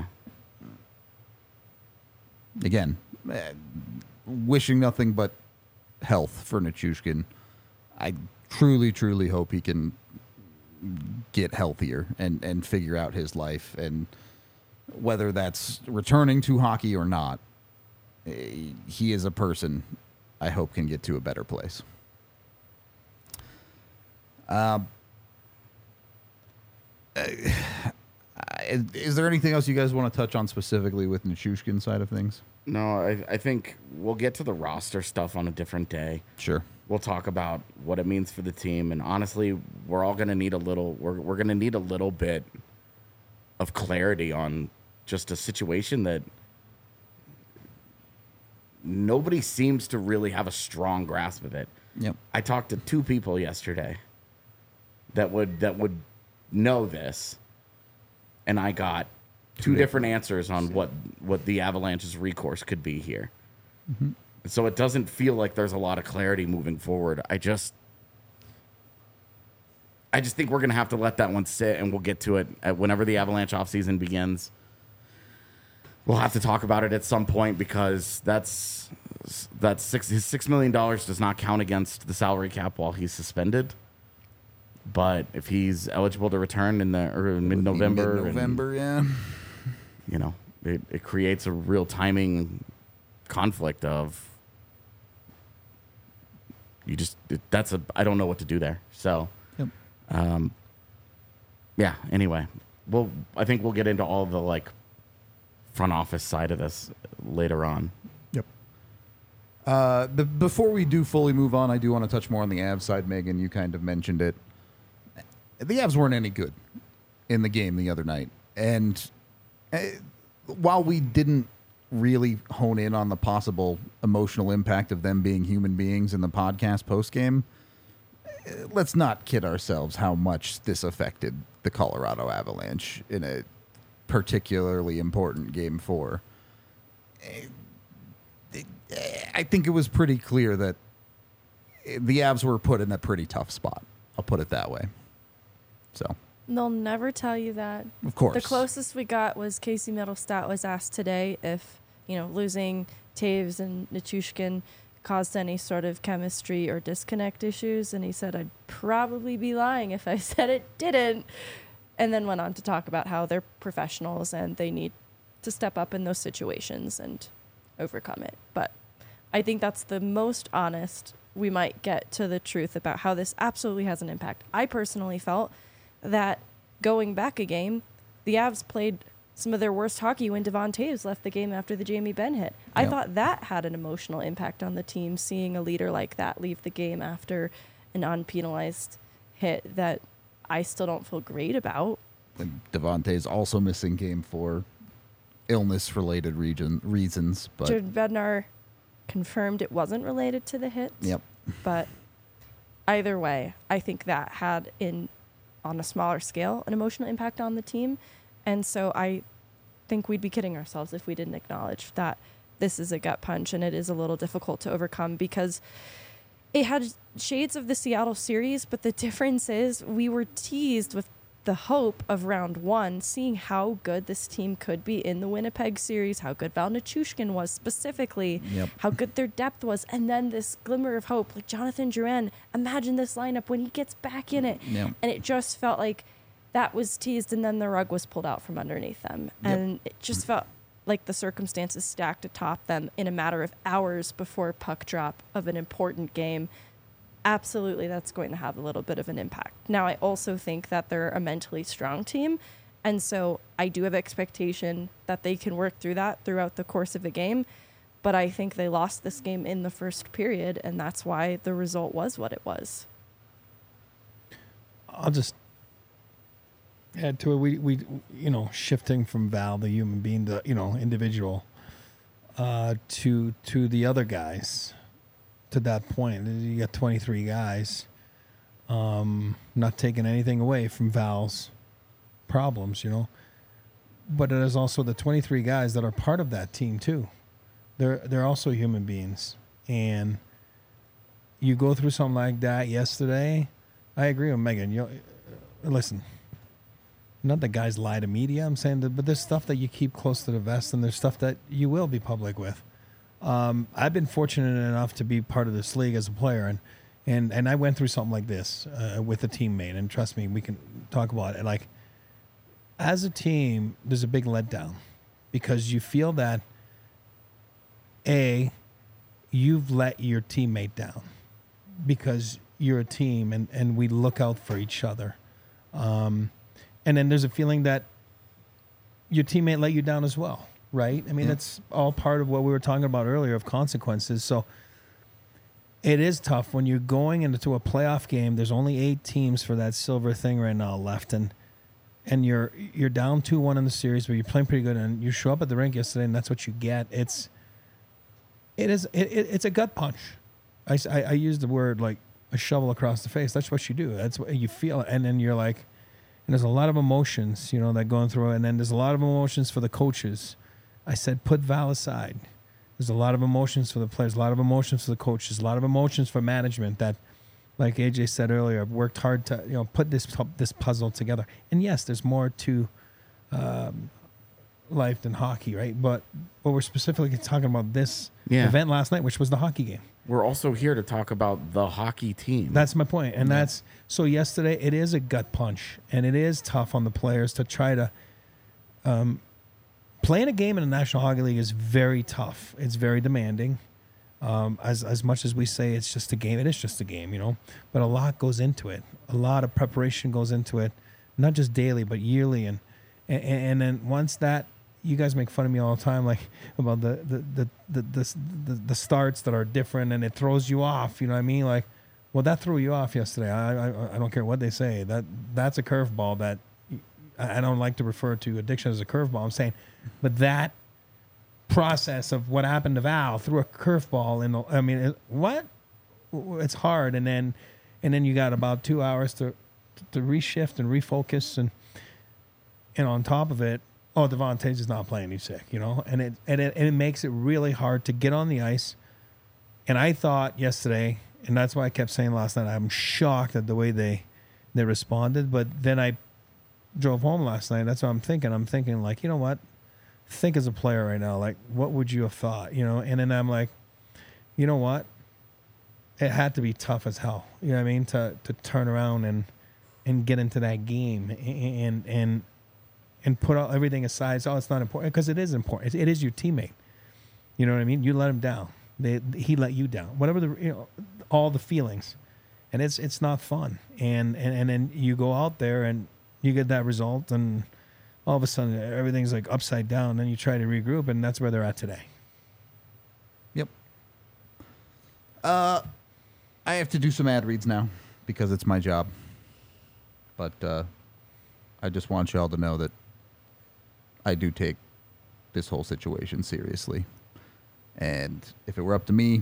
Again, uh, wishing nothing but health for Nichushkin. I truly, truly hope he can get healthier and, and figure out his life, and whether that's returning to hockey or not, he is a person I hope can get to a better place. Um, uh, is, is there anything else you guys want to touch on specifically with Nichushkin's side of things? No, I, I think we'll get to the roster stuff on a different day. Sure. We'll talk about what it means for the team, and honestly, we're all going to need a little. We're we're going to need a little bit of clarity on just a situation that nobody seems to really have a strong grasp of it. Yep. I talked to two people yesterday that would that would know this, and I got two different answers on what, what the Avalanche's recourse could be here. Mm-hmm. So it doesn't feel like there's a lot of clarity moving forward. I just I just think we're going to have to let that one sit, and we'll get to it at whenever the Avalanche offseason begins. We'll have to talk about it at some point, because that's that's six his six million dollars does not count against the salary cap while he's suspended. But if he's eligible to return in the or mid-November, mid-November, yeah, you know, it, it creates a real timing conflict of you just it, that's a I don't know what to do there. So, yep. um, yeah. Anyway, we'll I think we'll get into all the like front office side of this later on. Yep. Uh, the, before we do fully move on, I do want to touch more on the Avs side. Megan, you kind of mentioned it. The Avs weren't any good in the game the other night, and uh, while we didn't really hone in on the possible emotional impact of them being human beings in the podcast post-game, let's not kid ourselves how much this affected the Colorado Avalanche in a particularly important game four. I think it was pretty clear that the Avs were put in a pretty tough spot. I'll put it that way. So they'll never tell you that. Of course. The closest we got was Casey Middlestat was asked today if, you know, losing Taves and Nichushkin caused any sort of chemistry or disconnect issues, and he said, I'd probably be lying if I said it didn't, and then went on to talk about how they're professionals and they need to step up in those situations and overcome it. But I think that's the most honest we might get to the truth about how this absolutely has an impact. I personally felt that going back a game, the Avs played some of their worst hockey when Devon Toews left the game after the Jamie Benn hit. I yep. thought that had an emotional impact on the team, seeing a leader like that leave the game after an unpenalized hit that I still don't feel great about. And Devontae's also missing game for illness-related region reasons. But Jared Bednar confirmed it wasn't related to the hit. Yep. But either way, I think that had, in on a smaller scale, an emotional impact on the team. And so I think we'd be kidding ourselves if we didn't acknowledge that this is a gut punch and it is a little difficult to overcome, because it had shades of the Seattle series, but the difference is we were teased with the hope of round one, seeing how good this team could be in the Winnipeg series, how good Val Nichushkin was specifically, Yep. how good their depth was, and then this glimmer of hope, like Jonathan Drouin. Imagine this lineup when he gets back in it. Yep. And it just felt like that was teased, and then the rug was pulled out from underneath them. Yep. And it just felt like the circumstances stacked atop them in a matter of hours before puck drop of an important game. Absolutely, that's going to have a little bit of an impact. Now, I also think that they're a mentally strong team, and so I do have expectation that they can work through that throughout the course of the game, but I think they lost this game in the first period, and that's why the result was what it was. I'll just add to it. We, we, you know, shifting from Val, the human being, the, you know, individual, uh, to to the other guys. To that point, you got twenty-three guys. Um, not taking anything away from Val's problems, you know, but it is also the twenty-three guys that are part of that team too. They're they're also human beings, and you go through something like that yesterday. I agree with Megan. You know, listen, not that guys lie to media. I'm saying that, but there's stuff that you keep close to the vest, and there's stuff that you will be public with. Um, I've been fortunate enough to be part of this league as a player, and and, and I went through something like this uh, with a teammate, and trust me, we can talk about it. Like, as a team, there's a big letdown because you feel that, A, you've let your teammate down because you're a team, and, and we look out for each other. Um, and then there's a feeling that your teammate let you down as well. Right? I mean, yeah. That's all part of what we were talking about earlier of consequences. So it is tough when you're going into a playoff game. There's only eight teams for that silver thing right now left. And and you're you're down two one in the series, but you're playing pretty good. And you show up at the rink yesterday, and that's what you get. It's it is it, it, it's a gut punch. I, I, I use the word like a shovel across the face. That's what you do. That's what you feel. And then you're like, and there's a lot of emotions, you know, that going through it. And then there's a lot of emotions for the coaches. I said, put Val aside. There's a lot of emotions for the players, a lot of emotions for the coaches, a lot of emotions for management that, like A J said earlier, I've worked hard to, you know, put this this puzzle together. And yes, there's more to um, life than hockey, right? But but we're specifically talking about this yeah. event last night, which was the hockey game. We're also here to talk about the hockey team. That's my point. And yeah. that's so yesterday it is a gut punch, and it is tough on the players to try to um, playing a game in the National Hockey League is very tough. It's very demanding. Um, as as much as we say it's just a game, it is just a game, you know. But a lot goes into it. A lot of preparation goes into it, not just daily but yearly. And and, and then once that, you guys make fun of me all the time, like about the the the the, the, the, the starts that are different, and it throws you off. You know what I mean? Like, well, that threw you off yesterday. I I, I don't care what they say. That that's a curveball that I don't like to refer to addiction as a curveball. I'm saying, but that process of what happened to Val threw a curveball in the, I mean, it, what? It's hard. And then, and then you got about two hours to, to reshift and refocus. And, and on top of it, oh, Devontae's is not playing. He's sick, you know? And it, and it, and it makes it really hard to get on the ice. And I thought yesterday, and that's why I kept saying last night, I'm shocked at the way they, they responded. But then I drove home last night. That's what I'm thinking. I'm thinking like, you know what? Think as a player right now, like, what would you have thought, you know? And then I'm like, you know what? It had to be tough as hell, you know what I mean? To to turn around and and get into that game and and and put all, everything aside. So, oh, it's not important, because it is important. It, it is your teammate. You know what I mean? You let him down. They, he let you down. Whatever the, you know, all the feelings, and it's it's not fun. And and and then you go out there and you get that result, and all of a sudden everything's like upside down. Then you try to regroup, and that's where they're at today. Yep. Uh, I have to do some ad reads now because it's my job. but uh, I just want y'all to know that I do take this whole situation seriously. And if it were up to me,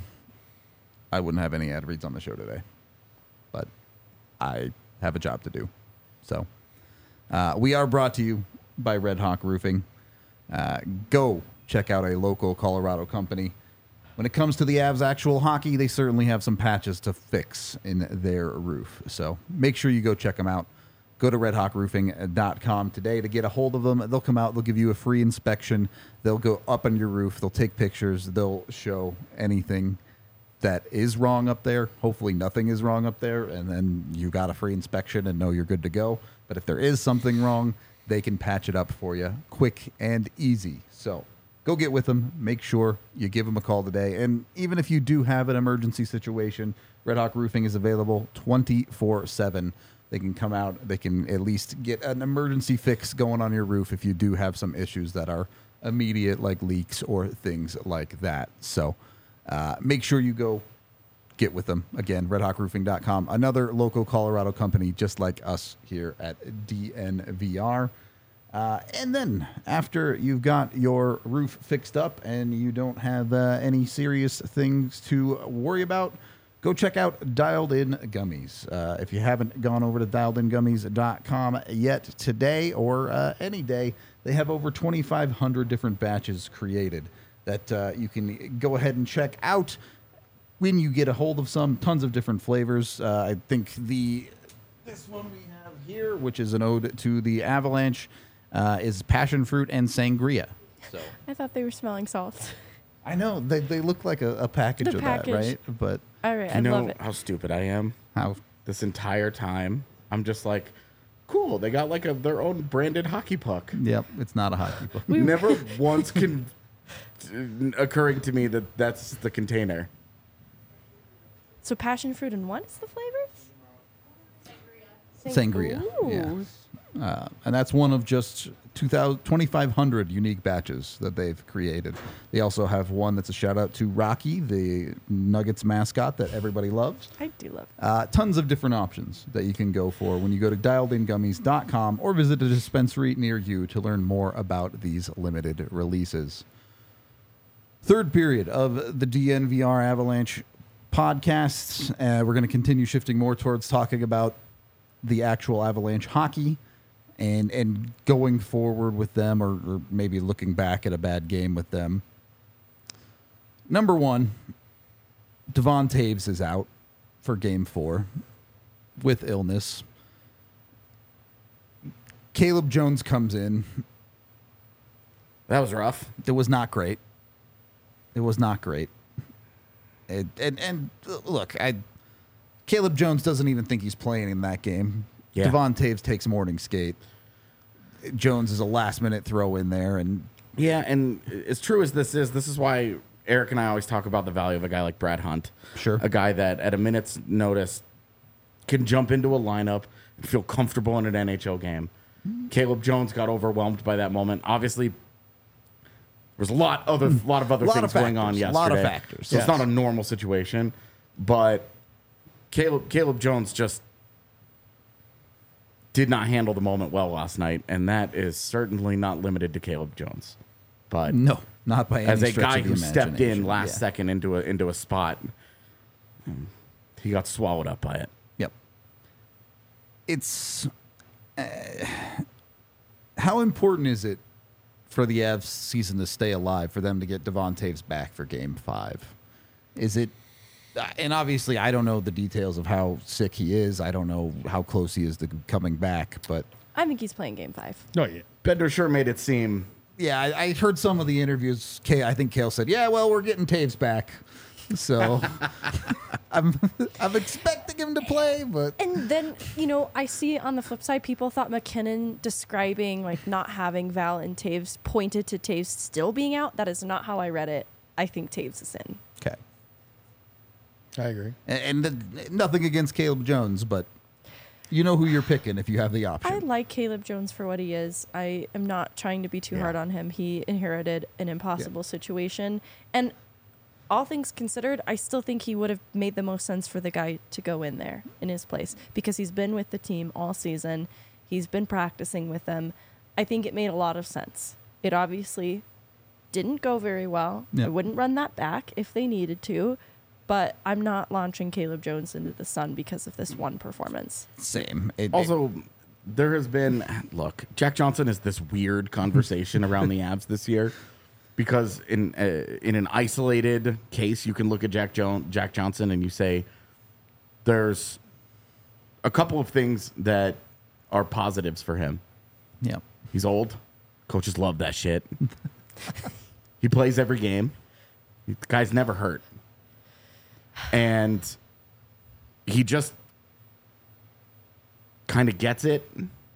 I wouldn't have any ad reads on the show today. But I have a job to do. So uh, we are brought to you by Red Hawk Roofing. Uh, go check out a local Colorado company. When it comes to the Avs actual hockey, they certainly have some patches to fix in their roof. So make sure you go check them out. Go to red hawk roofing dot com today to get a hold of them. They'll come out. They'll give you a free inspection. They'll go up on your roof. They'll take pictures. They'll show anything that is wrong up there. Hopefully nothing is wrong up there, and then you got a free inspection and know you're good to go. But if there is something wrong, they can patch it up for you quick and easy. So go get with them. Make sure you give them a call today. And even if you do have an emergency situation, Red Hawk Roofing is available twenty-four seven. They can come out. They can at least get an emergency fix going on your roof if you do have some issues that are immediate, like leaks or things like that. So uh, make sure you go get with them. Again, red hawk roofing dot com, another local Colorado company just like us here at D N V R. Uh, and then after you've got your roof fixed up and you don't have uh, any serious things to worry about, go check out Dialed In Gummies. Uh, if you haven't gone over to dialed in gummies dot com yet today or uh, any day, they have over twenty-five hundred different batches created that uh, you can go ahead and check out when you get a hold of some. Tons of different flavors. Uh, I think the this one we have here, which is an ode to the Avalanche, uh, is passion fruit and sangria. So I thought they were smelling salts. I know they they look like a, a package The of package. that, right? But All right, You I know love it. how stupid I am? how This entire time, I'm just like, cool. They got like a their own branded hockey puck. Yep, it's not a hockey book. Never once can occurring to me that that's the container. So passion fruit and what is the flavors? Sangria. Ooh. Yeah. Uh, and that's one of just two thousand, twenty-five hundred unique batches that they've created. They also have one that's a shout out to Rocky, the Nuggets mascot that everybody loves. I do love it. Uh, tons of different options that you can go for when you go to dialed in gummies dot com or visit a dispensary near you to learn more about these limited releases. Third period of the D N V R Avalanche podcasts. Uh, we're going to continue shifting more towards talking about the actual Avalanche hockey and and going forward with them, or, or maybe looking back at a bad game with them. Number one, Devon Toews is out for game four with illness. Caleb Jones comes in. That was rough. It was not great. It was not great. And, and, and look, I Caleb Jones doesn't even think he's playing in that game. Yeah. Devon Toews takes morning skate. Jones is a last-minute throw in there, and Yeah, and as true as this is, this is why Eric and I always talk about the value of a guy like Brad Hunt. Sure. A guy that at a minute's notice can jump into a lineup and feel comfortable in an N H L game. Caleb Jones got overwhelmed by that moment. Obviously, there's a lot other lot of other Lot things of going on factors. yesterday. Lot of factors, So yes. it's not a normal situation, but Caleb Caleb Jones just did not handle the moment well last night, and that is certainly not limited to Caleb Jones. But no, not by any as a stretch guy of the who stepped in imagination. last Yeah. second into a into a spot, um, he got swallowed up by it. Yep. It's uh, how important is it for the Avs season to stay alive, for them to get Devon Toews back for Game Five? Is it? Uh, and obviously, I don't know the details of how sick he is. I don't know how close he is to coming back. But I think he's playing game five. Oh yeah. Bender sure made it seem. yeah, I, I heard some of the interviews. Kay, I think Kale said, "Yeah, well, we're getting Toews back." So I'm I'm expecting him to play, but And then, you know, I see on the flip side, people thought McKinnon describing like not having Val and Toews pointed to Toews still being out. That is not how I read it. I think Toews is in. okay. I agree. And, and the, nothing against Caleb Jones, but you know who you're picking if you have the option. I like Caleb Jones for what he is. I am not trying to be too Yeah. hard on him. He inherited an impossible situation. And all things considered, I still think he would have made the most sense for the guy to go in there in his place because he's been with the team all season. He's been practicing with them. I think it made a lot of sense. It obviously didn't go very well. Yep. I wouldn't run that back if they needed to, but I'm not launching Caleb Jones into the sun because of this one performance. Same. It, Also, there has been, look, Jack Johnson is this weird conversation around the Avs this year because in uh, in an isolated case, you can look at Jack Jones, Jack Johnson and you say there's a couple of things that are positives for him. Yeah. He's old. Coaches love that shit. He plays every game. The guy's never hurt. And he just kind of gets it.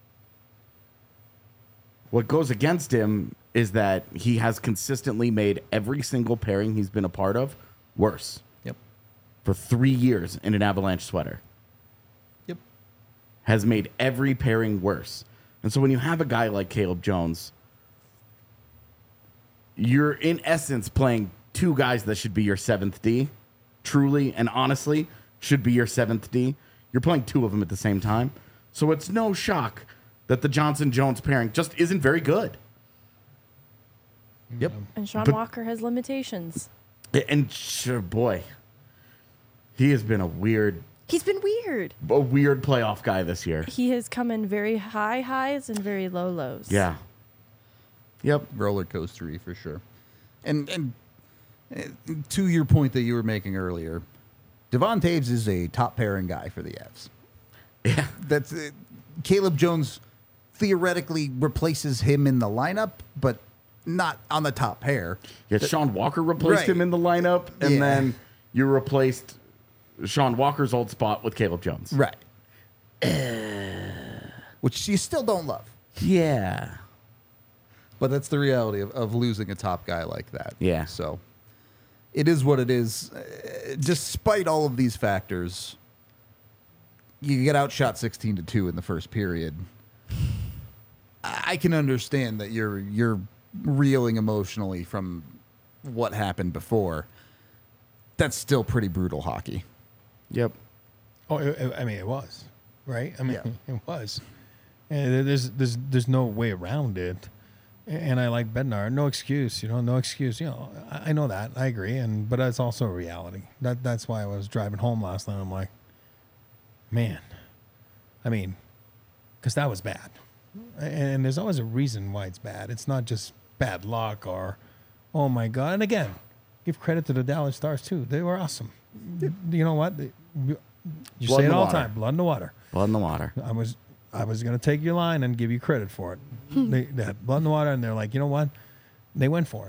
What goes against him is that he has consistently made every single pairing he's been a part of worse. Yep. For three years in an Avalanche sweater. Yep. Has made every pairing worse. And so when you have a guy like Caleb Jones, you're in essence playing two guys that should be your seventh D. Truly and honestly should be your seventh D. You're playing two of them at the same time. So it's no shock that the Johnson-Jones pairing just isn't very good. Yep. And Sean But- Walker has limitations. And sure, boy, he has been a weird, He's been weird. a weird playoff guy this year. He has come in very high highs and very low lows. Yeah. Yep. Roller coastery for sure. And and uh, to your point that you were making earlier, Devon Taves is a top pairing guy for the Avs. Yeah. That's uh, Caleb Jones theoretically replaces him in the lineup, but not on the top pair. Yeah, Sean Walker replaced Right. him in the lineup, and Yeah. then you replaced Sean Walker's old spot with Caleb Jones. Right. Which you still don't love. Yeah. But that's the reality of, of losing a top guy like that. Yeah. So it is what it is. Uh, despite all of these factors, you get outshot sixteen to two in the first period. I I can understand that you're you're reeling emotionally from what happened before. That's still pretty brutal hockey. Yep. Oh, it, I mean, it was, right? I mean, Yeah. it was. And there's there's there's no way around it. And I like Bednar. No excuse, you know, no excuse. You know, I, I know that. I agree. And but that's also a reality. That that's why I was driving home last night. I'm like, man, I mean, because that was bad. And there's always a reason why it's bad. It's not just bad luck or, oh my God. And again, give credit to the Dallas Stars too. They were awesome. You know what? They, you Blood say in it the all the water. time. Blood in the water. Blood in the water. I was I was going to take your line and give you credit for it. they, they had blood in the water, and they're like, you know what? They went for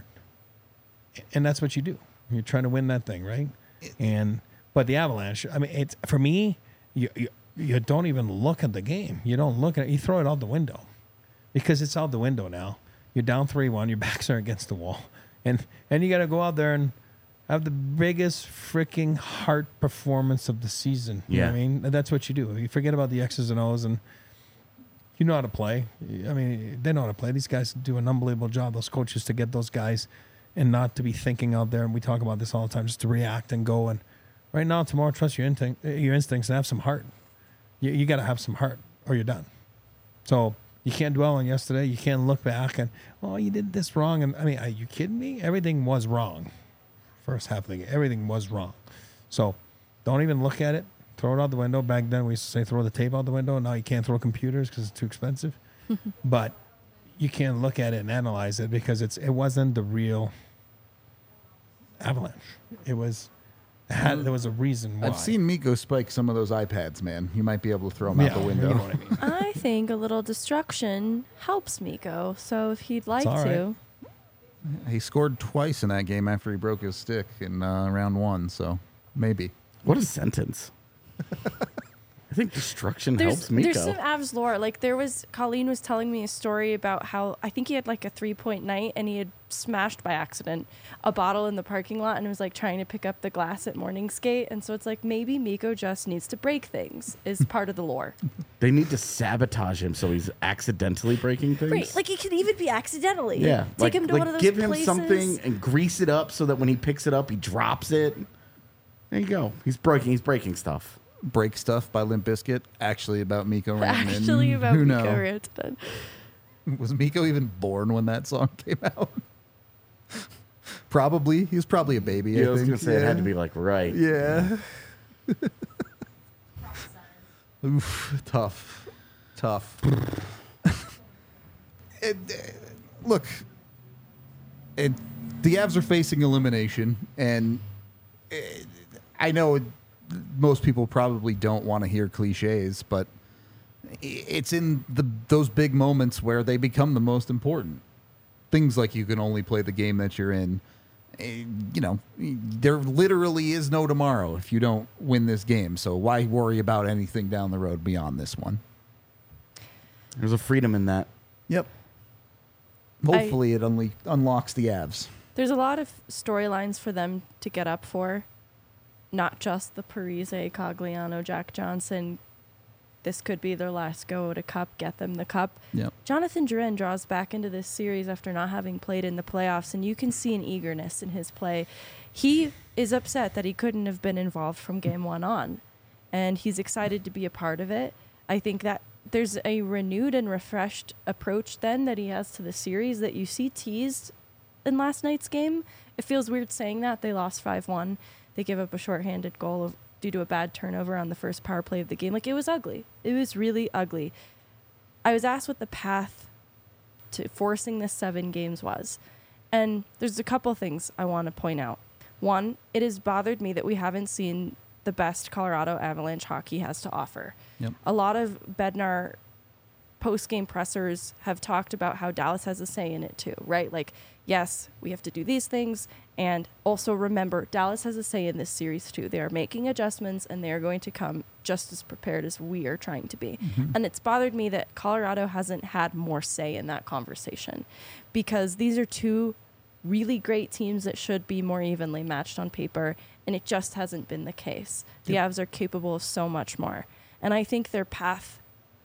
it. And that's what you do. You're trying to win that thing, right? And but the Avalanche, I mean, it's for me, you, you, you don't even look at the game. You don't look at it. You throw it out the window because it's out the window now. You're down three one. Your backs are against the wall. And, and you got to go out there and have the biggest freaking heart performance of the season. You know what I Yeah. mean? That's what you do. You forget about the X's and O's, and you know how to play. I mean, they know how to play. These guys do an unbelievable job, those coaches, to get those guys and not to be thinking out there. And we talk about this all the time, just to react and go. And right now, tomorrow, trust your, instinct, your instincts and have some heart. You, you got to have some heart or you're done. So you can't dwell on yesterday. You can't look back and, oh, you did this wrong. And I mean, are you kidding me? Everything was wrong. First half of the game, everything was wrong. So don't even look at it. Throw it out the window. Back then, we used to say throw the tape out the window. Now you can't throw computers because it's too expensive. But you can't look at it and analyze it because it's it wasn't the real Avalanche. It was it had, there was a reason why. I've seen Miko spike some of those iPads, man. You might be able to throw them yeah, out the window. You know what I mean? I think a little destruction helps Miko. So if he'd like all right. to. He scored twice in that game after he broke his stick in uh, round one, so maybe. What a sentence. I think destruction there's, helps Mikko. There's some Avs lore. Like there was, Colleen was telling me a story about how I think he had like a three point night and he had smashed by accident a bottle in the parking lot and was like trying to pick up the glass at morning skate. And so it's like maybe Mikko just needs to break things is part of the lore. They need to sabotage him so he's accidentally breaking things. Right, like it could even be accidentally. Yeah, take like, him to like one of those give him places. something and grease it up so that when he picks it up, he drops it. There you go. He's breaking. He's breaking stuff. Break Stuff by Limp Bizkit, actually about Mikko Rantanen. Actually about Who Mikko know? Rantanen. Was Mikko even born when that song came out? Probably. He was probably a baby, Yeah, I, I was think. going to say it had to be like right. Yeah. Oof, tough. Tough. it, uh, look, it, the Avs are facing elimination, and it, I know it, most people probably don't want to hear cliches, but it's in the those big moments where they become the most important. Things like you can only play the game that you're in. You know, there literally is no tomorrow if you don't win this game. So why worry about anything down the road beyond this one? There's a freedom in that. Yep. Hopefully I, it unle- unlocks the Avs. There's a lot of storylines for them to get up for. Not just the Parise, Cogliano, Jack Johnson. This could be their last go at a cup, get them the cup. Yep. Jonathan Drouin draws back into this series after not having played in the playoffs, and you can see an eagerness in his play. He is upset that he couldn't have been involved from game one on, and he's excited to be a part of it. I think that there's a renewed and refreshed approach then that he has to the series that you see teased in last night's game. It feels weird saying that. They lost five one. They gave up a shorthanded goal of, due to a bad turnover on the first power play of the game. Like, it was ugly. It was really ugly. I was asked what the path to forcing this seven games was. And there's a couple things I want to point out. One, it has bothered me that we haven't seen the best Colorado Avalanche hockey has to offer. Yep. A lot of Bednar post-game pressers have talked about how Dallas has a say in it too, right? Like, yes, we have to do these things. And also remember, Dallas has a say in this series too. They are making adjustments and they are going to come just as prepared as we are trying to be. Mm-hmm. And it's bothered me that Colorado hasn't had more say in that conversation, because these are two really great teams that should be more evenly matched on paper, and it just hasn't been the case. The yep. Avs are capable of so much more. And I think their path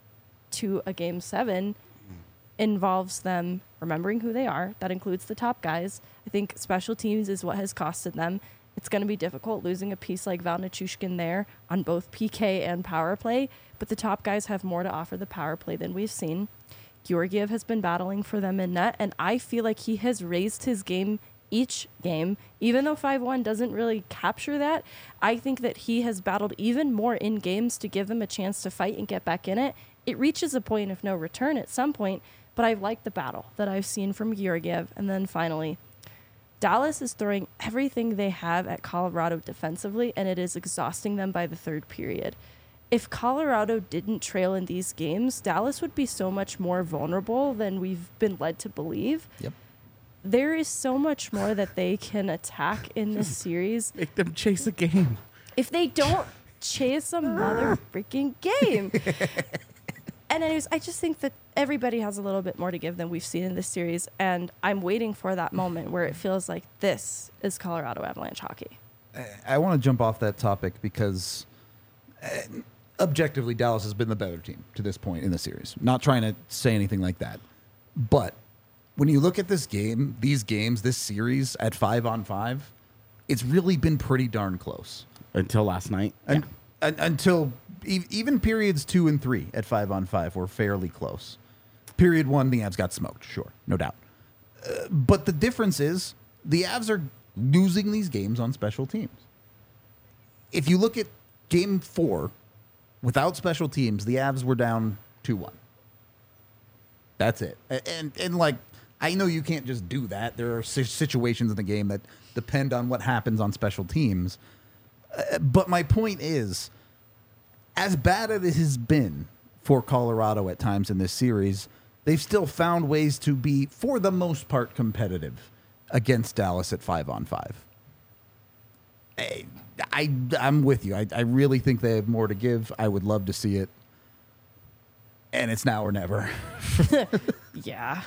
to a game seven involves them remembering who they are. That includes the top guys. I think special teams is what has costed them. It's going to be difficult losing a piece like Val Nichushkin there on both P K and power play, but the top guys have more to offer the power play than we've seen. Georgiev has been battling for them in net, and I feel like he has raised his game each game. Even though five one doesn't really capture that, I think that he has battled even more in games to give them a chance to fight and get back in it. It reaches a point of no return at some point, but I've liked the battle that I've seen from Georgiev. And then finally, Dallas is throwing everything they have at Colorado defensively, and it is exhausting them by the third period. If Colorado didn't trail in these games, Dallas would be so much more vulnerable than we've been led to believe. Yep. There is so much more that they can attack in this series. Make them chase a game. If they don't chase a mother freaking game. And anyways, I just think that everybody has a little bit more to give than we've seen in this series, and I'm waiting for that moment where it feels like this is Colorado Avalanche hockey. I want to jump off that topic because uh, objectively, Dallas has been the better team to this point in the series. Not trying to say anything like that. But when you look at this game, these games, this series at five on five, it's really been pretty darn close. Until last night. And, yeah. un- until e- even periods two and three at five on five were fairly close. Period one, the Avs got smoked, sure, no doubt. Uh, but the difference is the Avs are losing these games on special teams. If you look at game four, without special teams, the Avs were down two one. That's it. And, and, and like, I know you can't just do that. There are situations in the game that depend on what happens on special teams. Uh, but my point is, as bad as it has been for Colorado at times in this series, they've still found ways to be, for the most part, competitive against Dallas at five on five. I, I I'm with you. I, I really think they have more to give. I would love to see it. And it's now or never. Yeah.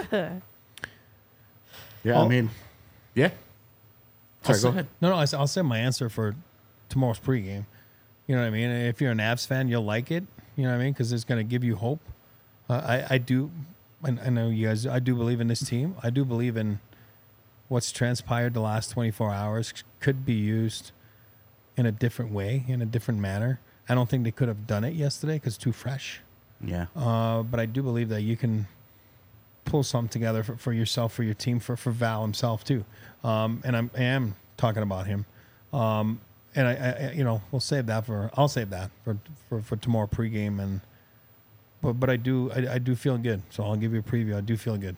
Yeah, Oh. I mean, yeah. I'll Sorry, go say- ahead. No, no, I s- I'll say my answer for tomorrow's pregame. You know what I mean? If you're an Avs fan, you'll like it. You know what I mean? Because it's going to give you hope. Uh, I, I do, I, I know you guys, I do believe in this team. I do believe in what's transpired the last twenty-four hours could be used in a different way, in a different manner. I don't think they could have done it yesterday because it's too fresh. Yeah. Uh, but I do believe that you can pull something together for, for yourself, for your team, for, for Val himself too. Um, and I'm, I am talking about him. Um, and I, I, you know, we'll save that for, I'll save that for, for, for tomorrow pregame. And, but, but I do, I, I do feel good. So I'll give you a preview. I do feel good.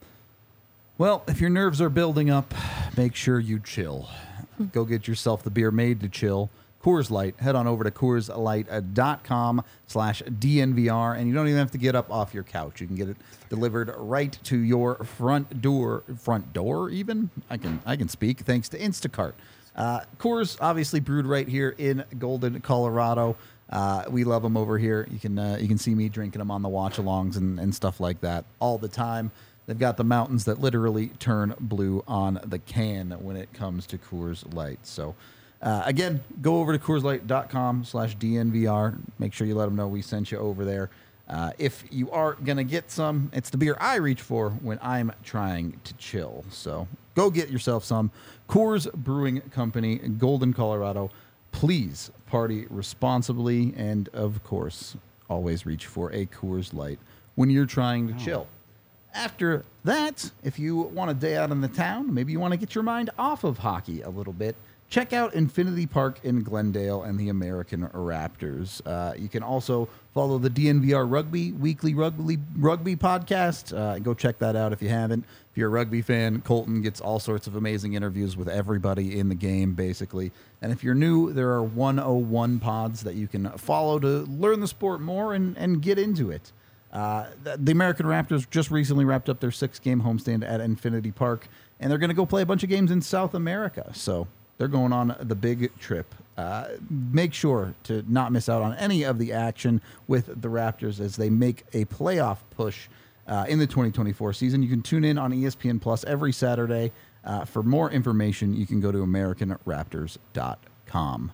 Well, if your nerves are building up, make sure you chill. Go get yourself the beer made to chill. Coors Light. Head on over to Coors Light dot com slash D N V R, and you don't even have to get up off your couch. You can get it delivered right to your front door. Front door, even? I can I can speak, thanks to Instacart. Uh, Coors, obviously brewed right here in Golden, Colorado. Uh, we love them over here. You can uh, you can see me drinking them on the watch-alongs and, and stuff like that all the time. They've got the mountains that literally turn blue on the can when it comes to Coors Light. So, uh, again, go over to Coors Light dot com slash D N V R. Make sure you let them know we sent you over there. Uh, if you are going to get some, it's the beer I reach for when I'm trying to chill. So go get yourself some. Coors Brewing Company, Golden, Colorado. Please party responsibly. And, of course, always reach for a Coors Light when you're trying to oh. chill. After that, if you want a day out in the town, maybe you want to get your mind off of hockey a little bit, check out Infinity Park in Glendale and the American Raptors. Uh, you can also follow the D N V R Rugby Weekly Rugby Rugby podcast. Uh, go check that out if you haven't. If you're a rugby fan, Colton gets all sorts of amazing interviews with everybody in the game, basically. And if you're new, there are one oh one pods that you can follow to learn the sport more and, and get into it. Uh, the, the American Raptors just recently wrapped up their six-game homestand at Infinity Park, and they're going to go play a bunch of games in South America. So they're going on the big trip. Uh, make sure to not miss out on any of the action with the Raptors as they make a playoff push uh, in the twenty twenty-four season. You can tune in on E S P N Plus every Saturday. Uh, for more information, you can go to American Raptors dot com.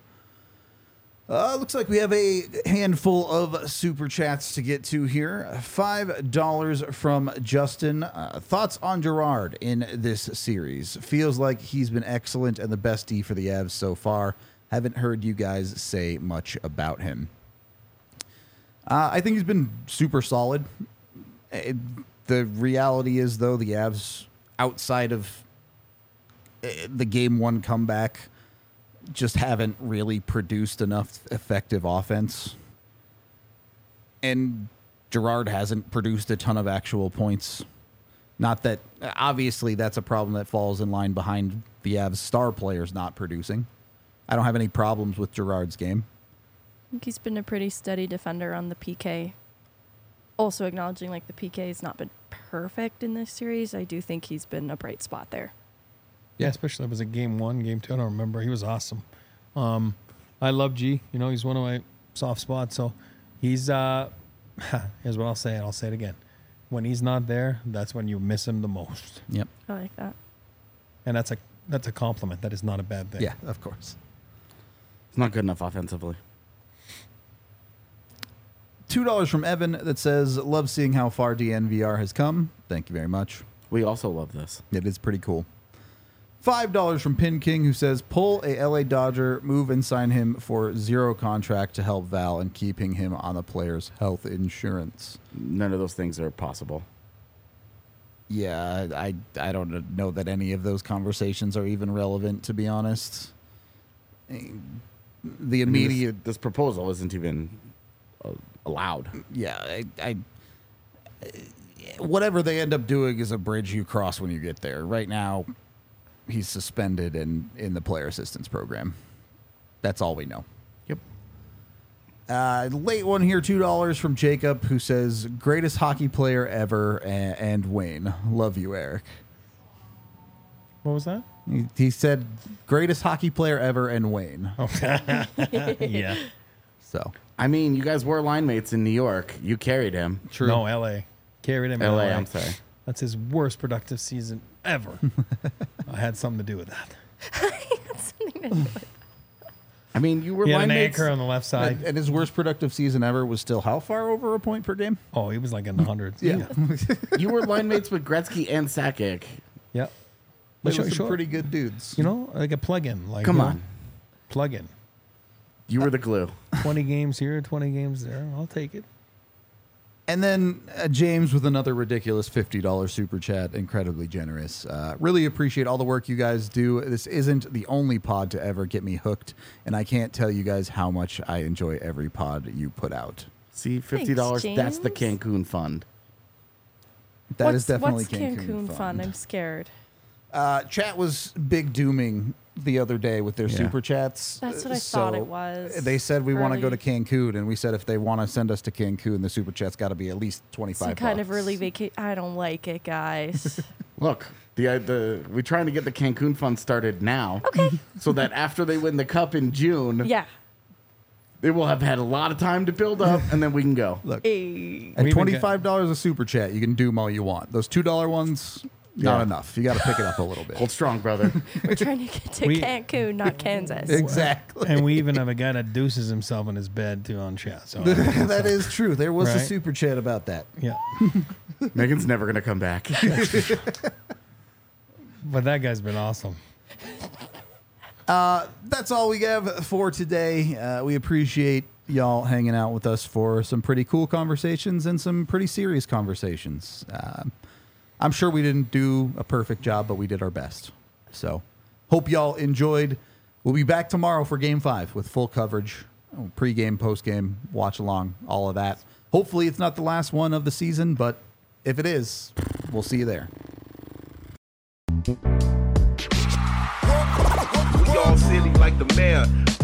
Uh, looks like we have a handful of super chats to get to here. five dollars from Justin. Uh, thoughts on Girard in this series? Feels like he's been excellent and the best D for the Avs so far. Haven't heard you guys say much about him. Uh, I think he's been super solid. It, the reality is, though, the Avs, outside of uh, the game one comeback, just haven't really produced enough effective offense. And Girard hasn't produced a ton of actual points. Not that, obviously, that's a problem that falls in line behind the Avs star players not producing. I don't have any problems with Girard's game. I think he's been a pretty steady defender on the P K. Also acknowledging, like, the P K has not been perfect in this series. I do think he's been a bright spot there. Yeah, especially if it was a game one, game two. I don't remember. He was awesome. Um, I love G. You know, he's one of my soft spots. So he's, uh, here's what I'll say, and I'll say it again. When he's not there, that's when you miss him the most. Yep. I like that. And that's a that's a compliment. That is not a bad thing. Yeah, of course. It's not good enough offensively. two dollars from Evan that says, love seeing how far D N V R has come. Thank you very much. We also love this. It is pretty cool. five dollars from Pin King, who says, pull a L A Dodger, move and sign him for zero contract to help Val and keeping him on the player's health insurance. None of those things are possible. Yeah, I, I don't know that any of those conversations are even relevant, to be honest. The immediate... I mean, this, this proposal isn't even uh, allowed. Yeah, I, I... Whatever they end up doing is a bridge you cross when you get there. Right now, he's suspended and in the player assistance program. That's all we know. Yep. Uh, late one here, two dollars from Jacob, who says, greatest hockey player ever, and, and Wayne. Love you, Eric. What was that? He, he said greatest hockey player ever and Wayne. Yeah. So I mean, you guys were line mates in New York. You carried him. true. No, L A. Carried him in L L A, A. I'm sorry. That's his worst productive season ever. I had something to do with that. I mean, you were He had line an mates. anchor on the left side. And, and his worst productive season ever was still how far over a point per game? Oh, he was like in the hundreds. Yeah. You were line mates with Gretzky and Sakic. Yep. They Sure, were some sure. pretty good dudes. You know, like a plug-in. Like, Come you know, on. plug-in. You were the glue. twenty games here, twenty games there. I'll take it. And then uh, James with another ridiculous fifty dollars super chat, incredibly generous. Uh, really appreciate all the work you guys do. This isn't the only pod to ever get me hooked, and I can't tell you guys how much I enjoy every pod you put out. See, fifty dollars, Thanks, that's the James. Cancun fund. That what's, is definitely what's Cancun, Cancun fun. fun? I'm scared. Uh, chat was big dooming the other day with their Yeah. super chats. That's what I So thought it was. They said we want to go to Early- Cancun, and we said if they want to send us to Cancun, the super chat's got to be at least twenty-five. Some kind of bucks. early vacation. I don't like it, guys. Look, the uh, the we're trying to get the Cancun fund started now. Okay. So that after they win the cup in June, yeah. they will have had a lot of time to build up, and then we can go. Look, Hey. at We even twenty-five dollars a super chat, you can doom all you want. Those two dollar ones, not Yeah. enough. You got to pick it up a little bit. Hold strong, brother. We're trying to get to We- Cancun, not Kansas. Exactly. And we even have a guy that deuces himself in his bed too on chat. So That is true. There was a Right. super chat about that. yeah, Megan's never gonna come back. but that guy's been awesome. That's all we have for today. Uh, we appreciate y'all hanging out with us for some pretty cool conversations and some pretty serious conversations. Um I'm sure we didn't do a perfect job, but we did our best. So, hope y'all enjoyed. We'll be back tomorrow for Game Five with full coverage, oh, pre-game, post-game, watch along, all of that. Hopefully, it's not the last one of the season, but if it is, we'll see you there. We all silly like the mayor.